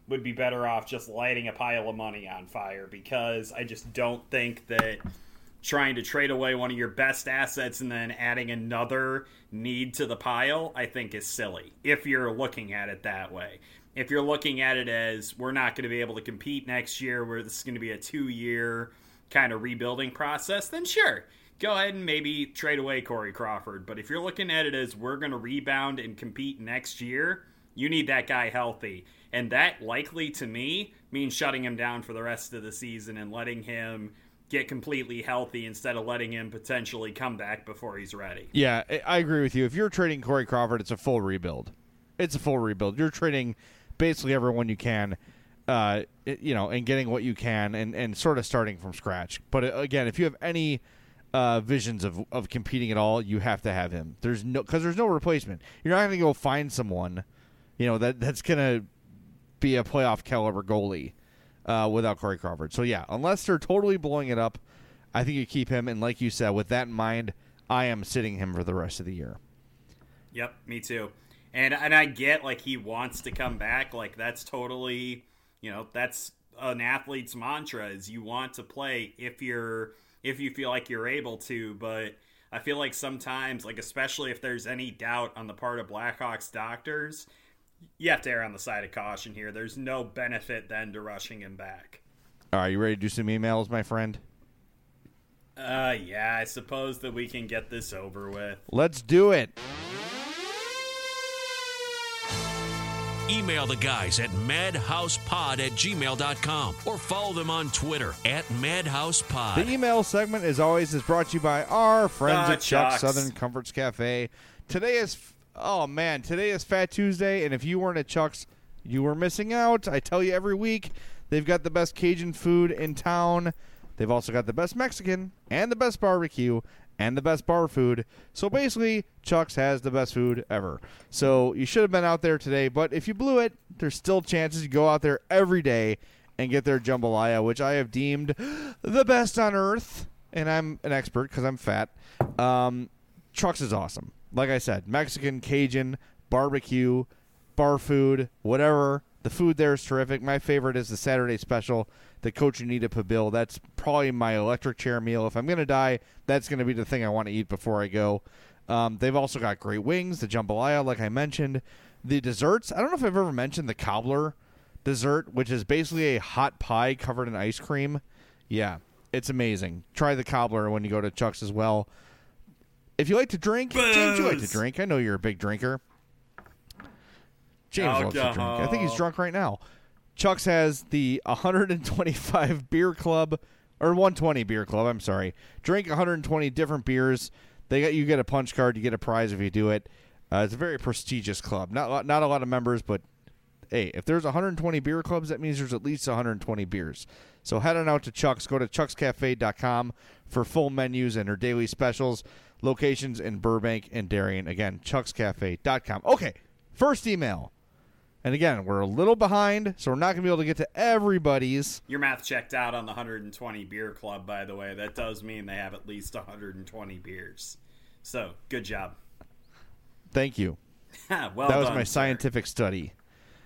would be better off just lighting a pile of money on fire, because I just don't think that trying to trade away one of your best assets and then adding another need to the pile, I think is silly, if you're looking at it that way. If you're looking at it as, we're not going to be able to compete next year, where this is going to be a 2-year kind of rebuilding process, then sure, go ahead and maybe trade away Corey Crawford. But if you're looking at it as, we're going to rebound and compete next year, you need that guy healthy. And that likely, to me, means shutting him down for the rest of the season and letting him get completely healthy instead of letting him potentially come back before he's ready. Yeah, I agree with you. If you're trading Corey Crawford, it's a full rebuild. It's a full rebuild. You're trading basically everyone you can, and getting what you can and sort of starting from scratch. But again, if you have any visions of competing at all, you have to have him. There's no replacement. You're not going to go find someone, that's going to be a playoff caliber goalie without Corey Crawford. So yeah, unless they're totally blowing it up, I think you keep him. And like you said, with that in mind, I am sitting him for the rest of the year. Yep, me too. And I get, like, he wants to come back. Like, that's totally, that's an athlete's mantra, is you want to play if you feel like you're able to. But I feel like sometimes, like, especially if there's any doubt on the part of Blackhawks doctors, you have to err on the side of caution here. There's no benefit then to rushing him back. All right, you ready to do some emails, my friend? Yeah, I suppose that we can get this over with. Let's do it. Email the guys at madhousepod@gmail.com or follow them on Twitter @madhousepod. The email segment, as always, is brought to you by our friends at Chuck's Chuck's Southern Comforts Cafe. Today is Fat Tuesday, and if you weren't at Chuck's, you were missing out. I tell you every week, they've got the best Cajun food in town. They've also got the best Mexican and the best barbecue and the best bar food. So basically, Chuck's has the best food ever. So you should have been out there today, but if you blew it, there's still chances to go out there every day and get their jambalaya, which I have deemed the best on earth. And I'm an expert because I'm fat. Chuck's is awesome. Like I said, Mexican, Cajun, barbecue, bar food, whatever. The food there is terrific. My favorite is the Saturday special, the Coach Anita Pabil. That's probably my electric chair meal. If I'm going to die, that's going to be the thing I want to eat before I go. They've also got great wings, the jambalaya, like I mentioned. The desserts, I don't know if I've ever mentioned the cobbler dessert, which is basically a hot pie covered in ice cream. Yeah, it's amazing. Try the cobbler when you go to Chuck's as well. If you like to drink, James, you like to drink. I know you're a big drinker. James loves to drink. I think he's drunk right now. Chuck's has the 125 beer club, or 120 beer club, I'm sorry. Drink 120 different beers. You get a punch card. You get a prize if you do it. It's a very prestigious club. Not a lot of members, but hey, if there's 120 beer clubs, that means there's at least 120 beers. So head on out to Chuck's. Go to chuckscafe.com for full menus and their daily specials. Locations in Burbank and Darien. Again, chuckscafe.com. Okay, first email. And again, we're a little behind, so we're not going to be able to get to everybody's. Your math checked out on the 120 beer club, by the way. That does mean they have at least 120 beers. So, good job. Thank you. Well that was done, my scientific study.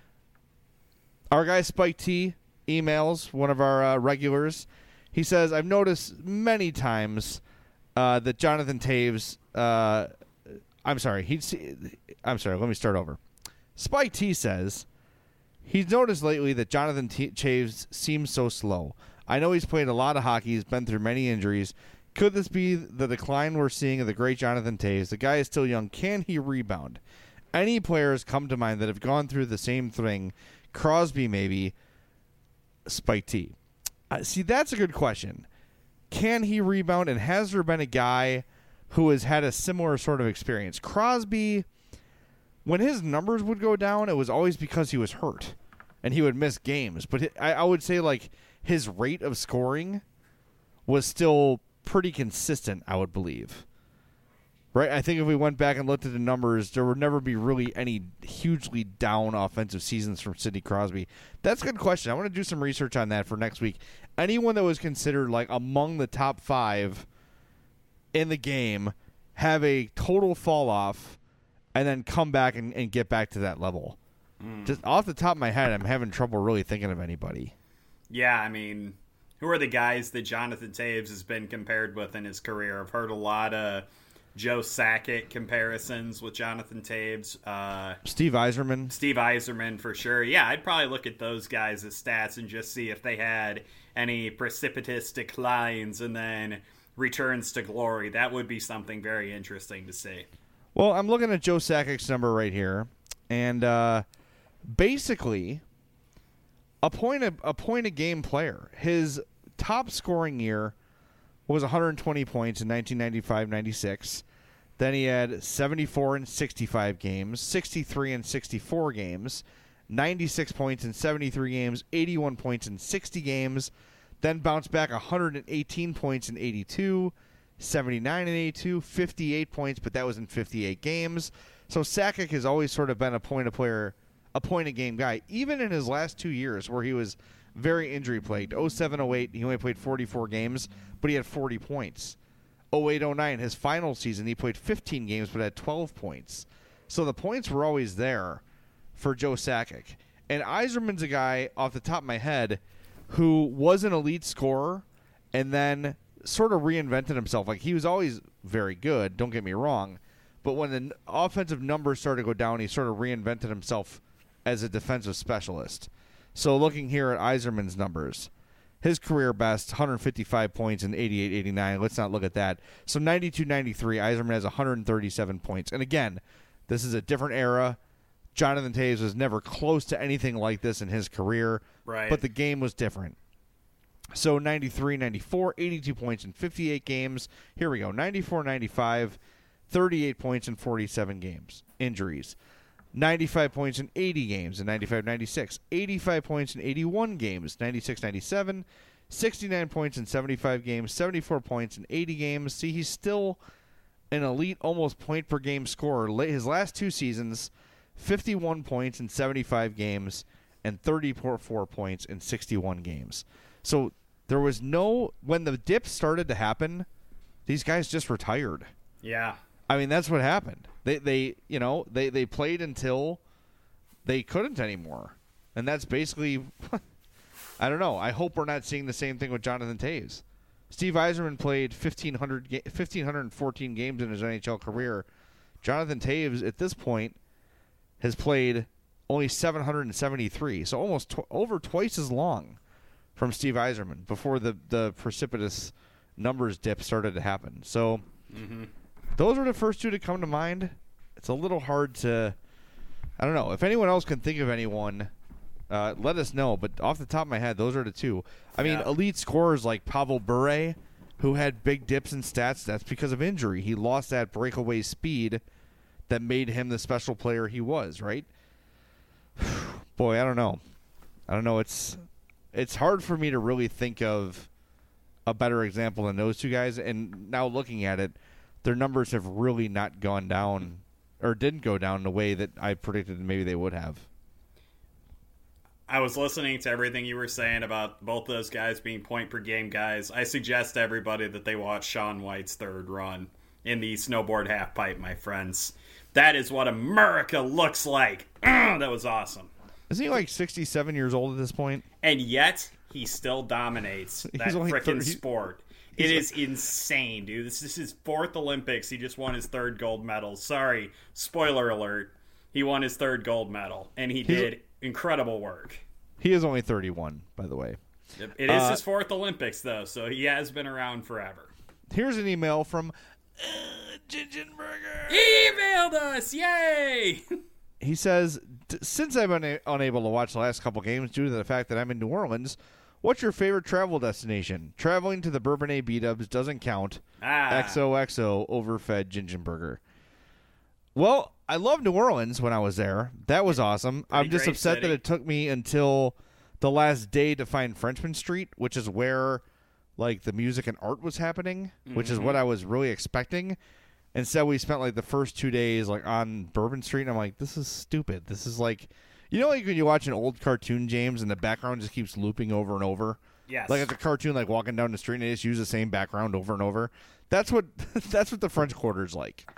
Our guy Spike T emails, one of our regulars. He says, I've noticed many times that Jonathan Toews... I'm sorry, let me start over. Spike T says he's noticed lately that Jonathan Toews seems so slow. I know he's played a lot of hockey. He's been through many injuries. Could this be the decline we're seeing of the great Jonathan Toews? The guy is still young. Can he rebound? Any players come to mind that have gone through the same thing? Crosby, maybe. Spike T. See, that's a good question. Can he rebound? And has there been a guy who has had a similar sort of experience? Crosby... When his numbers would go down, it was always because he was hurt and he would miss games. But I would say, like, his rate of scoring was still pretty consistent, I would believe. Right? I think if we went back and looked at the numbers, there would never be really any hugely down offensive seasons from Sidney Crosby. That's a good question. I want to do some research on that for next week. Anyone that was considered, like, among the top 5 in the game have a total fall off and then come back and get back to that level. Just off the top of my head, I'm having trouble really thinking of anybody. Yeah, I mean, who are the guys that Jonathan Toews has been compared with in his career? I've heard a lot of Joe Sakic comparisons with Jonathan Toews. Steve Yzerman. Steve Yzerman, for sure. Yeah, I'd probably look at those guys' stats and just see if they had any precipitous declines and then returns to glory. That would be something very interesting to see. Well, I'm looking at Joe Sakic's number right here, and basically a point a game player. His top scoring year was 120 points in 1995-96. Then he had 74 in 65 games, 63 in 64 games, 96 points in 73 games, 81 points in 60 games, then bounced back 118 points in 82, 79 in 82, 58 points, but that was in 58 games. So Sakic has always sort of been a point-a-game guy, even in his last 2 years where he was very injury-plagued. 07-08, he only played 44 games, but he had 40 points. 08-09, his final season, he played 15 games but had 12 points. So the points were always there for Joe Sakic. And Yzerman's a guy, off the top of my head, who was an elite scorer and then sort of reinvented himself. Like, he was always very good, don't get me wrong, but when the offensive numbers started to go down, he sort of reinvented himself as a defensive specialist. So looking here at Yzerman's numbers, his career best, 155 points in 88-89. Let's not look at that. So 92-93, Yzerman has 137 points. And again, this is a different era. Jonathan Toews was never close to anything like this in his career. Right. But the game was different. So 93-94, 82 points in 58 games. Here we go. 94-95, 38 points in 47 games. Injuries. 95 points in 80 games in 95-96, 85 points in 81 games, 96-97, 69 points in 75 games, 74 points in 80 games. See, he's still an elite, almost point-per-game scorer. His last 2 seasons, 51 points in 75 games and 34 points in 61 games. So there was when the dip started to happen, these guys just retired. Yeah. I mean, that's what happened. They played until they couldn't anymore. And that's basically, I don't know. I hope we're not seeing the same thing with Jonathan Toews. Steve Yzerman played 1,514 games in his NHL career. Jonathan Toews, at this point, has played only 773. So almost over twice as long from Steve Yzerman before the precipitous numbers dip started to happen. So... Mm-hmm. Those are the first 2 to come to mind. It's a little hard to... I don't know. If anyone else can think of anyone, let us know. But off the top of my head, those are the 2. I mean, elite scorers like Pavel Bure, who had big dips in stats, that's because of injury. He lost that breakaway speed that made him the special player he was, right? Boy, I don't know. It's hard for me to really think of a better example than those 2 guys. And now looking at it, their numbers have really not gone down or didn't go down the way that I predicted maybe they would have. I was listening to everything you were saying about both those guys being point-per-game guys. I suggest to everybody that they watch Shaun White's third run in the snowboard half-pipe, my friends. That is what America looks like. That was awesome. Isn't he like 67 years old at this point? And yet, he still dominates that frickin' sport. It is insane, dude. This is his 4th Olympics. He just won his 3rd gold medal. Sorry, spoiler alert. He won his 3rd gold medal, and he did incredible work. He is only 31, by the way. It is his 4th Olympics, though, so he has been around forever. Here's an email from Gingenberger. He emailed us! Yay! He says, since I've been unable to watch the last couple games due to the fact that I'm in New Orleans, what's your favorite travel destination? Traveling to the Bourbonnais B-Dubs doesn't count. XOXO, overfed Gingenberger. Well, I loved New Orleans when I was there. That was awesome. I'm just upset that it took me until the last day to find Frenchman Street, which is where like the music and art was happening, which is what I was really expecting. Instead, we spent like the first 2 days like on Bourbon Street, and I'm like, this is stupid. This is like... You know, like when you watch an old cartoon, James, and the background just keeps looping over and over? Yes. Like it's a cartoon, like walking down the street, and they just use the same background over and over. That's what the French Quarter's like.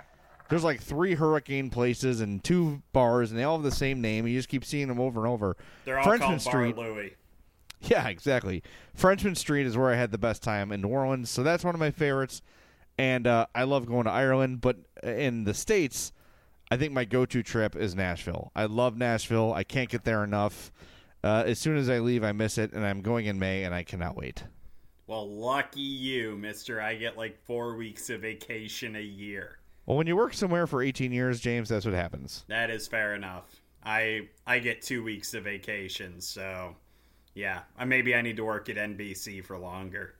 There's like 3 Hurricane places and 2 bars, and they all have the same name. You just keep seeing them over and over. They're all Frenchman called Street. Bar Louie. Yeah, exactly. Frenchman Street is where I had the best time in New Orleans, so that's one of my favorites. And I love going to Ireland, but in the States, I think my go-to trip is Nashville. I love Nashville. I can't get there enough. As soon as I leave, I miss it, and I'm going in May, and I cannot wait. Well, lucky you, mister. I get like 4 weeks of vacation a year. Well, when you work somewhere for 18 years, James, that's what happens. That is fair enough. I get 2 weeks of vacation, so yeah. Maybe I need to work at NBC for longer.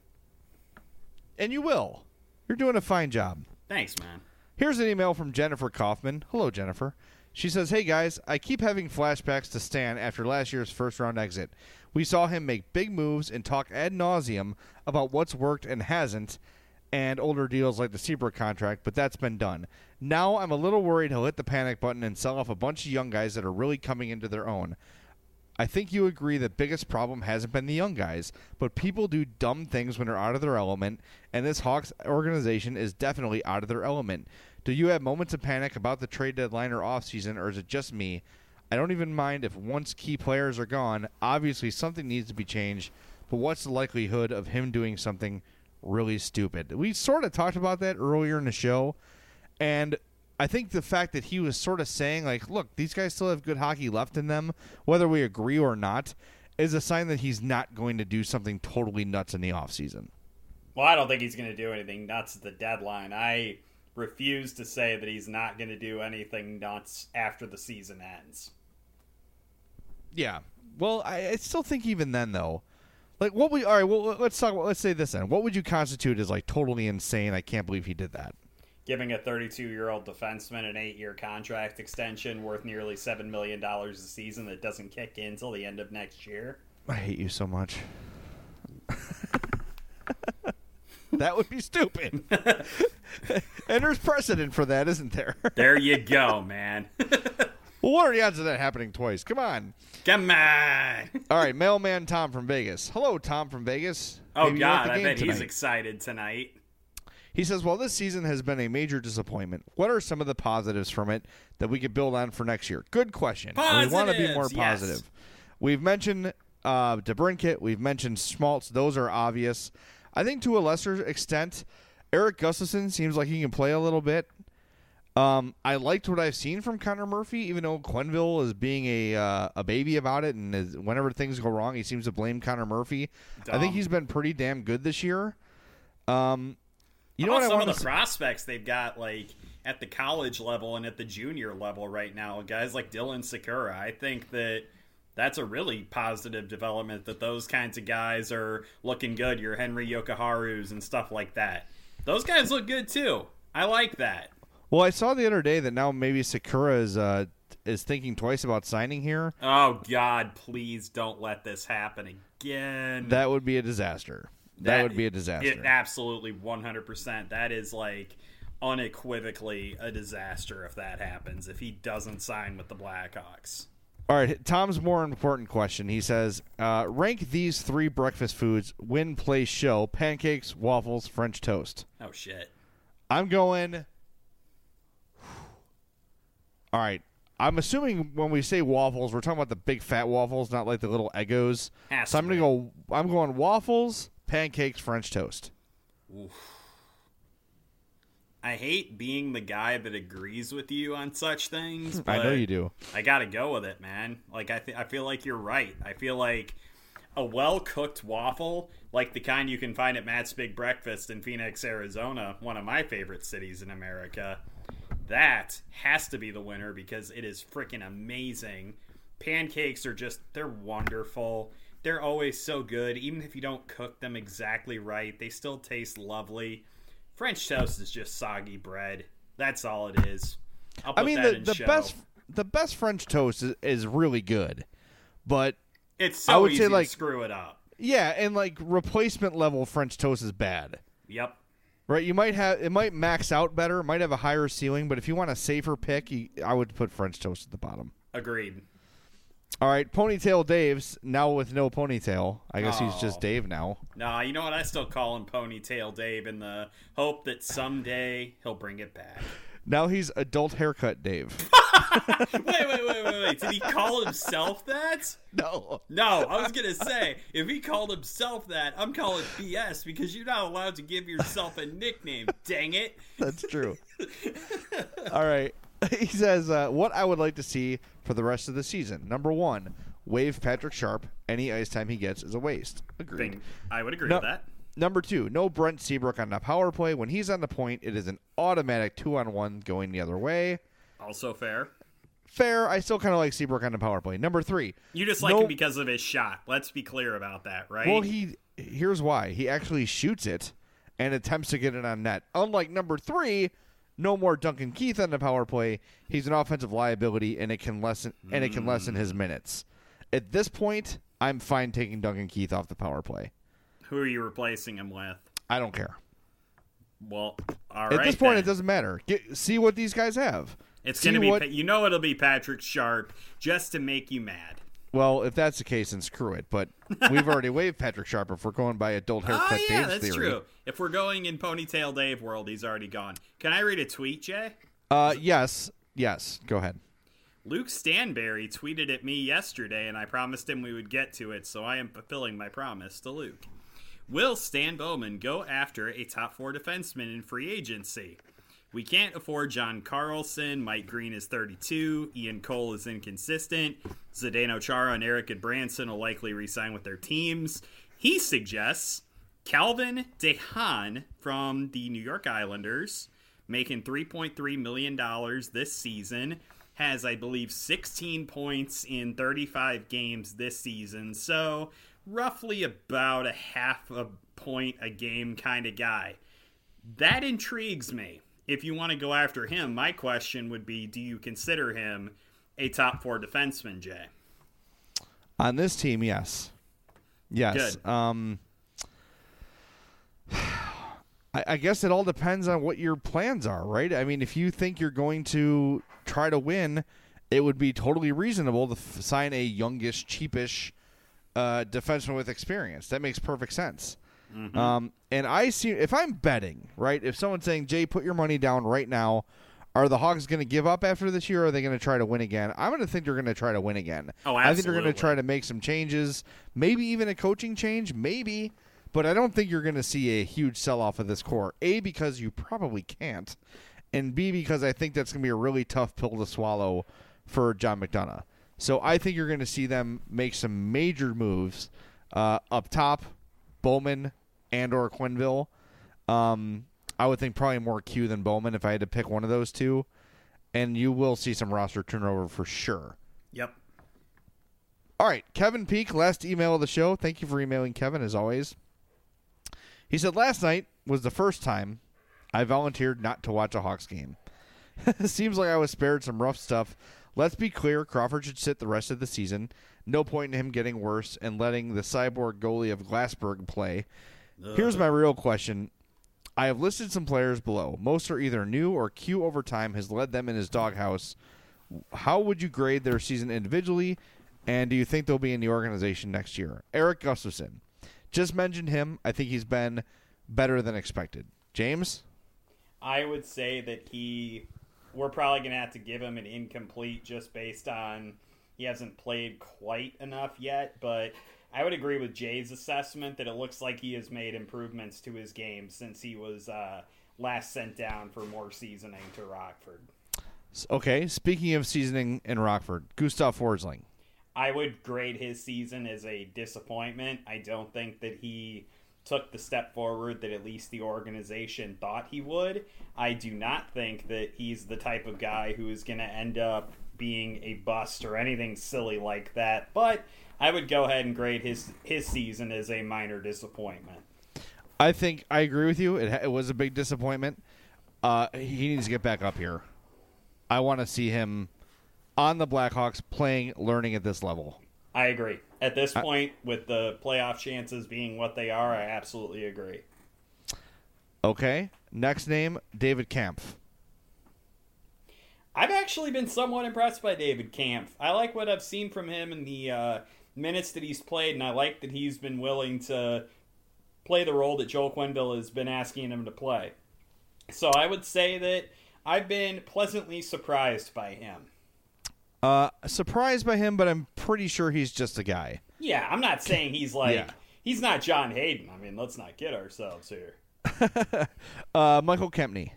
And you will. You're doing a fine job. Thanks, man. Here's an email from Jennifer Kaufman. Hello, Jennifer. She says, hey, guys, I keep having flashbacks to Stan after last year's first-round exit. We saw him make big moves and talk ad nauseum about what's worked and hasn't, and older deals like the Seabrook contract, but that's been done. Now I'm a little worried he'll hit the panic button and sell off a bunch of young guys that are really coming into their own. I think you agree the biggest problem hasn't been the young guys, but people do dumb things when they're out of their element, and this Hawks organization is definitely out of their element. Do you have moments of panic about the trade deadline or offseason, or is it just me? I don't even mind if once key players are gone, obviously something needs to be changed, but what's the likelihood of him doing something really stupid? We sort of talked about that earlier in the show, and I think the fact that he was sort of saying, like, look, these guys still have good hockey left in them, whether we agree or not, is a sign that he's not going to do something totally nuts in the offseason. Well, I don't think he's going to do anything nuts at the deadline. I refuse to say that he's not going to do anything nuts after the season ends. Yeah. Well, I still think even then, though, like, all right, well, let's say this then. What would you constitute as, like, totally insane? I can't believe he did that. Giving a 32-year-old defenseman an 8-year contract extension worth nearly $7 million a season that doesn't kick in until the end of next year. I hate you so much. That would be stupid. And there's precedent for that, isn't there? There you go, man. Well, what are the odds of that happening twice? Come on. Come on. All right, mailman Tom from Vegas. Hello, Tom from Vegas. Oh, Maybe you're at God, the I game bet tonight. he's excited tonight. He says, well, this season has been a major disappointment. What are some of the positives from it that we could build on for next year? Good question. We want to be more positive. Yes. We've mentioned DeBrincat. We've mentioned Schmaltz. Those are obvious. I think to a lesser extent, Eric Gustafsson seems like he can play a little bit. I liked what I've seen from Connor Murphy, even though Quenneville is being a baby about it, and whenever things go wrong, he seems to blame Connor Murphy. Dumb. I think he's been pretty damn good this year. You know How what about I some want of the prospects they've got, like, at the college level and at the junior level right now? Guys like Dylan Sakura. I think that's a really positive development that those kinds of guys are looking good. Your Henry Yokoharus and stuff like that. Those guys look good, too. I like that. Well, I saw the other day that now maybe Sakura is thinking twice about signing here. Oh, God, please don't let this happen again. That would be a disaster. That would be a disaster. It absolutely 100%. That is like unequivocally a disaster if that happens, if he doesn't sign with the Blackhawks. All right, Tom's more important question. He says, rank these 3 breakfast foods, win, play, show: pancakes, waffles, French toast. Oh, shit. I'm going... All right. I'm assuming when we say waffles, we're talking about the big fat waffles, not like the little Eggos. Has So to I'm going waffles, pancakes, French toast. Oof. I hate being the guy that agrees with you on such things, but I know you do. I gotta go with it, man. Like, I feel like you're right. I feel like a well-cooked waffle, like the kind you can find at Matt's Big Breakfast in Phoenix, Arizona, one of my favorite cities in America, that has to be the winner because it is freaking amazing. Pancakes are just, they're wonderful. They're always so good. Even if you don't cook them exactly right, they still taste lovely. French toast is just soggy bread. That's all it is. I'll put that in show. the best French toast is really good, but It's I so would easy say, like, to screw it up. yeah, and like replacement level French toast is bad. Yep. Right, it might max out better, might have a higher ceiling, but if you want a safer pick, I would put French toast at the bottom. Agreed. All right, Ponytail Dave's now with no ponytail. I guess he's Oh. just Dave now. Nah, you know what? I still call him Ponytail Dave in the hope that someday he'll bring it back. Now he's Adult Haircut Dave. Wait. Did he call himself that? No. No, I was going to say, if he called himself that, I'm calling BS because you're not allowed to give yourself a nickname, dang it. That's true. All right. He says, what I would like to see for the rest of the season. Number 1, waive Patrick Sharp. Any ice time he gets is a waste. Agreed. I would agree with that. Number 2, no Brent Seabrook on the power play. When he's on the point, it is an automatic 2-on-1 going the other way. Also fair. Fair. I still kind of like Seabrook on the power play. Number 3. You just like him because of his shot. Let's be clear about that, right? Well, here's why. He actually shoots it and attempts to get it on net. Unlike number 3, no more Duncan Keith on the power play. He's an offensive liability, and it can lessen his minutes. At this point, I'm fine taking Duncan Keith off the power play. Who are you replacing him with? I don't care. Well, all right. At this point, then. it doesn't matter. See what these guys have. It's going to be, it'll be Patrick Sharp just to make you mad. Well, if that's the case, then screw it. But we've already waived Patrick Sharp if we're going by Adult Haircut Dave's theory. That's true. If we're going in Ponytail Dave world, he's already gone. Can I read a tweet, Jay? Yes. Go ahead. Luke Stanberry tweeted at me yesterday, and I promised him we would get to it, so I am fulfilling my promise to Luke. Will Stan Bowman go after a top 4 defenseman in free agency? We can't afford John Carlson. Mike Green is 32. Ian Cole is inconsistent. Zdeno Chara and Eric Branson will likely re-sign with their teams. He suggests Calvin DeHaan from the New York Islanders, making $3.3 million this season, has, I believe, 16 points in 35 games this season. So roughly about a half a point a game kind of guy. That intrigues me. If you want to go after him, my question would be, do you consider him a top 4 defenseman, Jay? On this team, yes. Yes. Good. I guess it all depends on what your plans are, right? I mean, if you think you're going to try to win, it would be totally reasonable to sign a youngish, cheapish defenseman with experience. That makes perfect sense. Mm-hmm. And I see, if I'm betting, right, if someone's saying, Jay, put your money down right now, are the Hawks going to give up after this year, or are they going to try to win again? I'm going to think they're going to try to win again. Oh, absolutely. I think they're going to try to make some changes, maybe even a coaching change, maybe, but I don't think you're going to see a huge sell-off of this core, A, because you probably can't, and B, because I think that's going to be a really tough pill to swallow for John McDonough. So I think you're going to see them make some major moves up top, Bowman and or Quenneville. I would think probably more Q than Bowman if I had to pick one of those two. And you will see some roster turnover for sure. Yep. All right, Kevin Peak, last email of the show. Thank you for emailing, Kevin, as always. He said, last night was the first time I volunteered not to watch a Hawks game. Seems like I was spared some rough stuff. Let's be clear, Crawford should sit the rest of the season. No point in him getting worse and letting the cyborg goalie of Glassberg play. Here's my real question. I have listed some players below. Most are either new or Q over time has led them in his doghouse. How would you grade their season individually, and do you think they'll be in the organization next year? Eric Gustafson. Just mentioned him. I think he's been better than expected. James? I would say that we're probably going to have to give him an incomplete just based on he hasn't played quite enough yet, but I would agree with Jay's assessment that it looks like he has made improvements to his game since he was last sent down for more seasoning to Rockford. Okay, speaking of seasoning in Rockford, Gustav Forsling. I would grade his season as a disappointment. I don't think that he took the step forward that at least the organization thought he would. I do not think that he's the type of guy who is going to end up being a bust or anything silly like that, but I would go ahead and grade his season as a minor disappointment. I think I agree with you. It was a big disappointment. He needs to get back up here. I want to see him on the Blackhawks playing, learning at this level. I agree. At this point, with the playoff chances being what they are, I absolutely agree. Okay. Next name, David Kampf. I've actually been somewhat impressed by David Kampf. I like what I've seen from him in the minutes that he's played, and I like that he's been willing to play the role that Joel Quenneville has been asking him to play. So I would say that I've been pleasantly surprised by him. Surprised by him, but I'm pretty sure he's just a guy. Yeah, I'm not saying he's like, Yeah. he's not John Hayden. I mean, let's not kid ourselves here. Michael Kempney.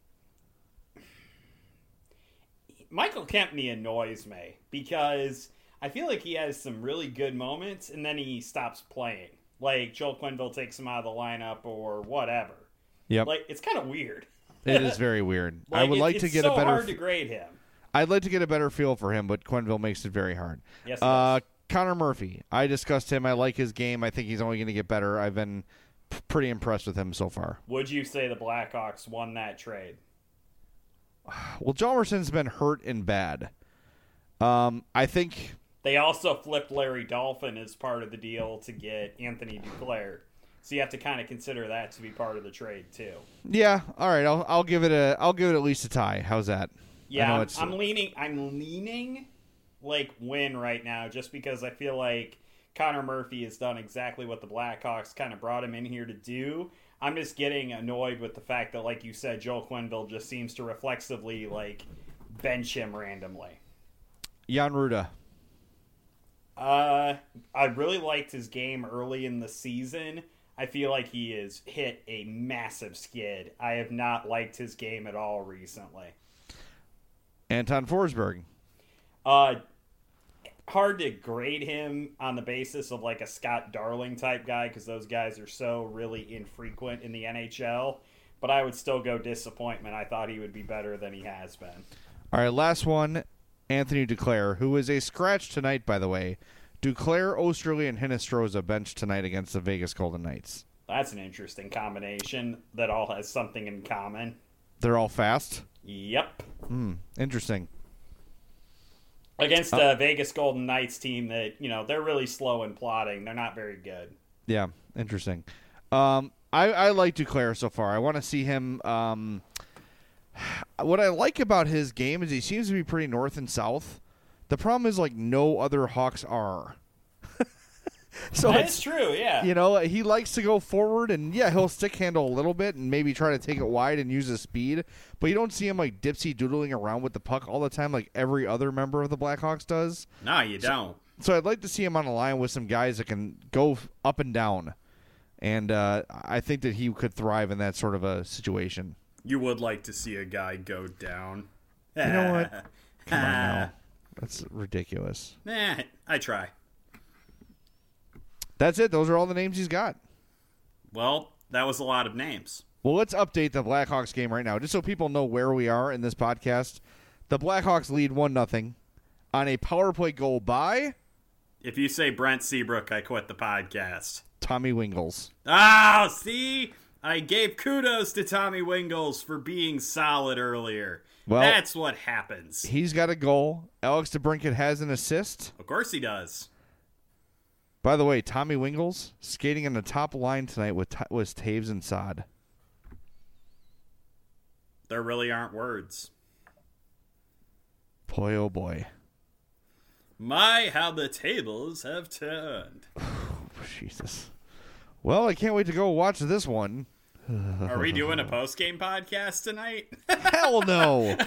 Michael Kempney annoys me because I feel like he has some really good moments and then he stops playing. Like Joel Quenneville takes him out of the lineup or whatever. Yep. Like, it's kind of weird. It is very weird. Like, I would like to get so a better. hard to grade him. I'd like to get a better feel for him, but Quenneville makes it very hard. Yes, it does. Connor Murphy. I discussed him. I like his game. I think he's only going to get better. I've been pretty impressed with him so far. Would you say the Blackhawks won that trade? Well, Hjalmarsson's been hurt and bad. I think They also flipped Larry Dolphin as part of the deal to get Anthony Duclair. So you have to kind of consider that to be part of the trade too. yeah. All right, I'll give it at least a tie. How's that? Yeah, I'm leaning like win right now just because I feel like Connor Murphy has done exactly what the Blackhawks kind of brought him in here to do. I'm just getting annoyed with the fact that, like you said, Joel Quenneville just seems to reflexively like bench him randomly. Jan Ruda. I really liked his game early in the season. I feel like he has hit a massive skid. I have not liked his game at all recently. Anton Forsberg. Hard to grade him on the basis of like a Scott Darling type guy because those guys are so really infrequent in the NHL. But I would still go disappointment. I thought he would be better than he has been. All right, last one. Anthony Duclair, who is a scratch tonight, by the way. Duclair, Osterley, and Hinostroza benched tonight against the Vegas Golden Knights. That's an interesting combination that all has something in common. They're all fast? Yep. Interesting. Against the Vegas Golden Knights team that, you know, they're really slow in plotting. They're not very good. Yeah, interesting. I like Duclair so far. I want to see him. What I like about his game is he seems to be pretty north and south. The problem is, like, no other Hawks are. So That's true, yeah. You know, he likes to go forward, and, yeah, he'll stick handle a little bit and maybe try to take it wide and use his speed. But you don't see him, like, dipsy-doodling around with the puck all the time like every other member of the Blackhawks does. No, you don't. So I'd like to see him on a line with some guys that can go up and down. And I think that he could thrive in that sort of a situation. You would like to see a guy go down. You know what? Come on now. That's ridiculous. I try. That's it. Those are all the names he's got. Well, that was a lot of names. Well, let's update the Blackhawks game right now, just so people know where we are in this podcast. The Blackhawks lead 1-0 on a power play goal by... If you say Brent Seabrook, I quit the podcast. Tommy Wingels. Oh, see? I gave kudos to Tommy Wingels for being solid earlier. Well, that's what happens. He's got a goal. Alex DeBrincat has an assist. Of course he does. By the way, Tommy Wingels skating on the top line tonight was Taves and Saad. There really aren't words. Boy, oh boy. My, how the tables have turned. Jesus. Well, I can't wait to go watch this one. Are we doing a post-game podcast tonight? Hell no.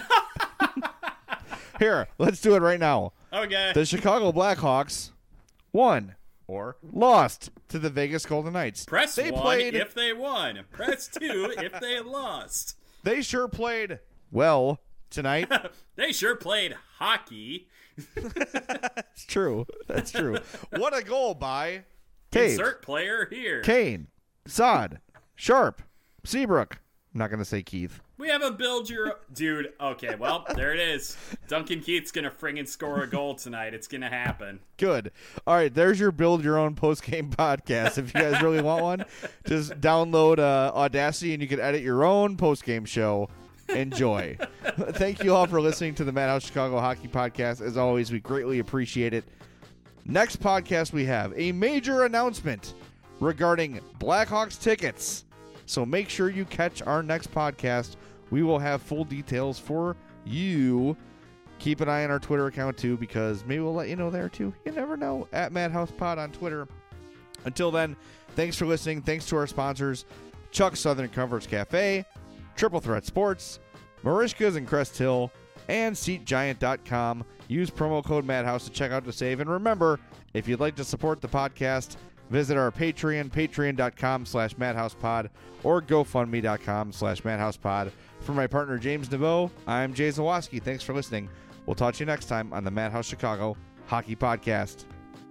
Here, let's do it right now. Okay. The Chicago Blackhawks won or lost to the Vegas Golden Knights. Press 1 if they won. Press 2 if they lost. They sure played well tonight. They sure played hockey. That's true. That's true. What a goal by Taves. Insert player here. Kane, Saad, Sharp, Seabrook. I'm not going to say Keith. We have a build your... Dude, okay, well, there it is. Duncan Keith's going to friggin' score a goal tonight. It's going to happen. Good. All right, there's your build your own post-game podcast. If you guys really want one, just download Audacity and you can edit your own post-game show. Enjoy. Thank you all for listening to the Madhouse Chicago Hockey Podcast. As always, we greatly appreciate it. Next podcast, we have a major announcement regarding Blackhawks tickets. So make sure you catch our next podcast. We will have full details for you. Keep an eye on our Twitter account, too, because maybe we'll let you know there, too. You never know. At MadhousePod on Twitter. Until then, thanks for listening. Thanks to our sponsors, Chuck's Southern Comforts Cafe, Triple Threat Sports, Marishka's in Crest Hill, and SeatGiant.com. Use promo code Madhouse to check out to save. And remember, if you'd like to support the podcast, visit our Patreon, patreon.com/madhousepod, or gofundme.com/madhousepod. For my partner, James Naveau, I'm Jay Zawaski. Thanks for listening. We'll talk to you next time on the Madhouse Chicago Hockey Podcast.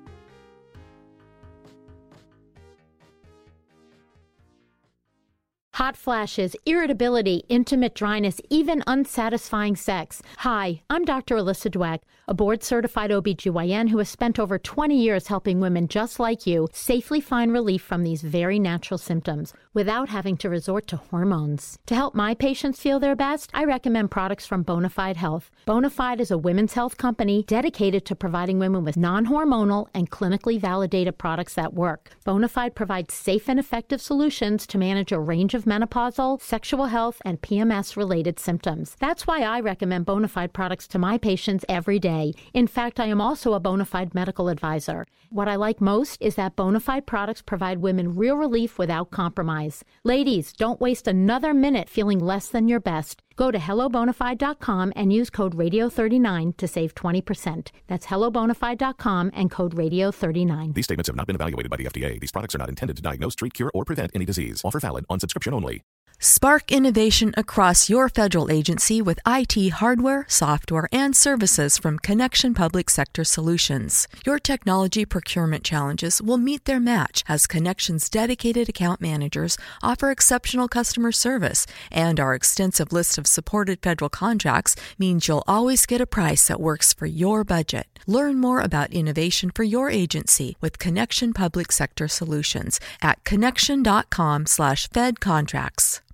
Hot flashes, irritability, intimate dryness, even unsatisfying sex. Hi, I'm Dr. Alyssa Dweck, a board-certified OBGYN who has spent over 20 years helping women just like you safely find relief from these very natural symptoms without having to resort to hormones. To help my patients feel their best, I recommend products from Bonafide Health. Bonafide is a women's health company dedicated to providing women with non-hormonal and clinically validated products that work. Bonafide provides safe and effective solutions to manage a range of menopausal, sexual health, and PMS-related symptoms. That's why I recommend Bonafide products to my patients every day. In fact, I am also a Bonafide medical advisor. What I like most is that Bonafide products provide women real relief without compromise. Ladies, don't waste another minute feeling less than your best. Go to hellobonafide.com and use code radio39 to save 20%. That's hellobonafide.com and code radio39. These statements have not been evaluated by the FDA. These products are not intended to diagnose, treat, cure, or prevent any disease. Offer valid on subscription only. Spark innovation across your federal agency with IT hardware, software, and services from Connection Public Sector Solutions. Your technology procurement challenges will meet their match as Connection's dedicated account managers offer exceptional customer service, and our extensive list of supported federal contracts means you'll always get a price that works for your budget. Learn more about innovation for your agency with Connection Public Sector Solutions at connection.com/fedcontracts.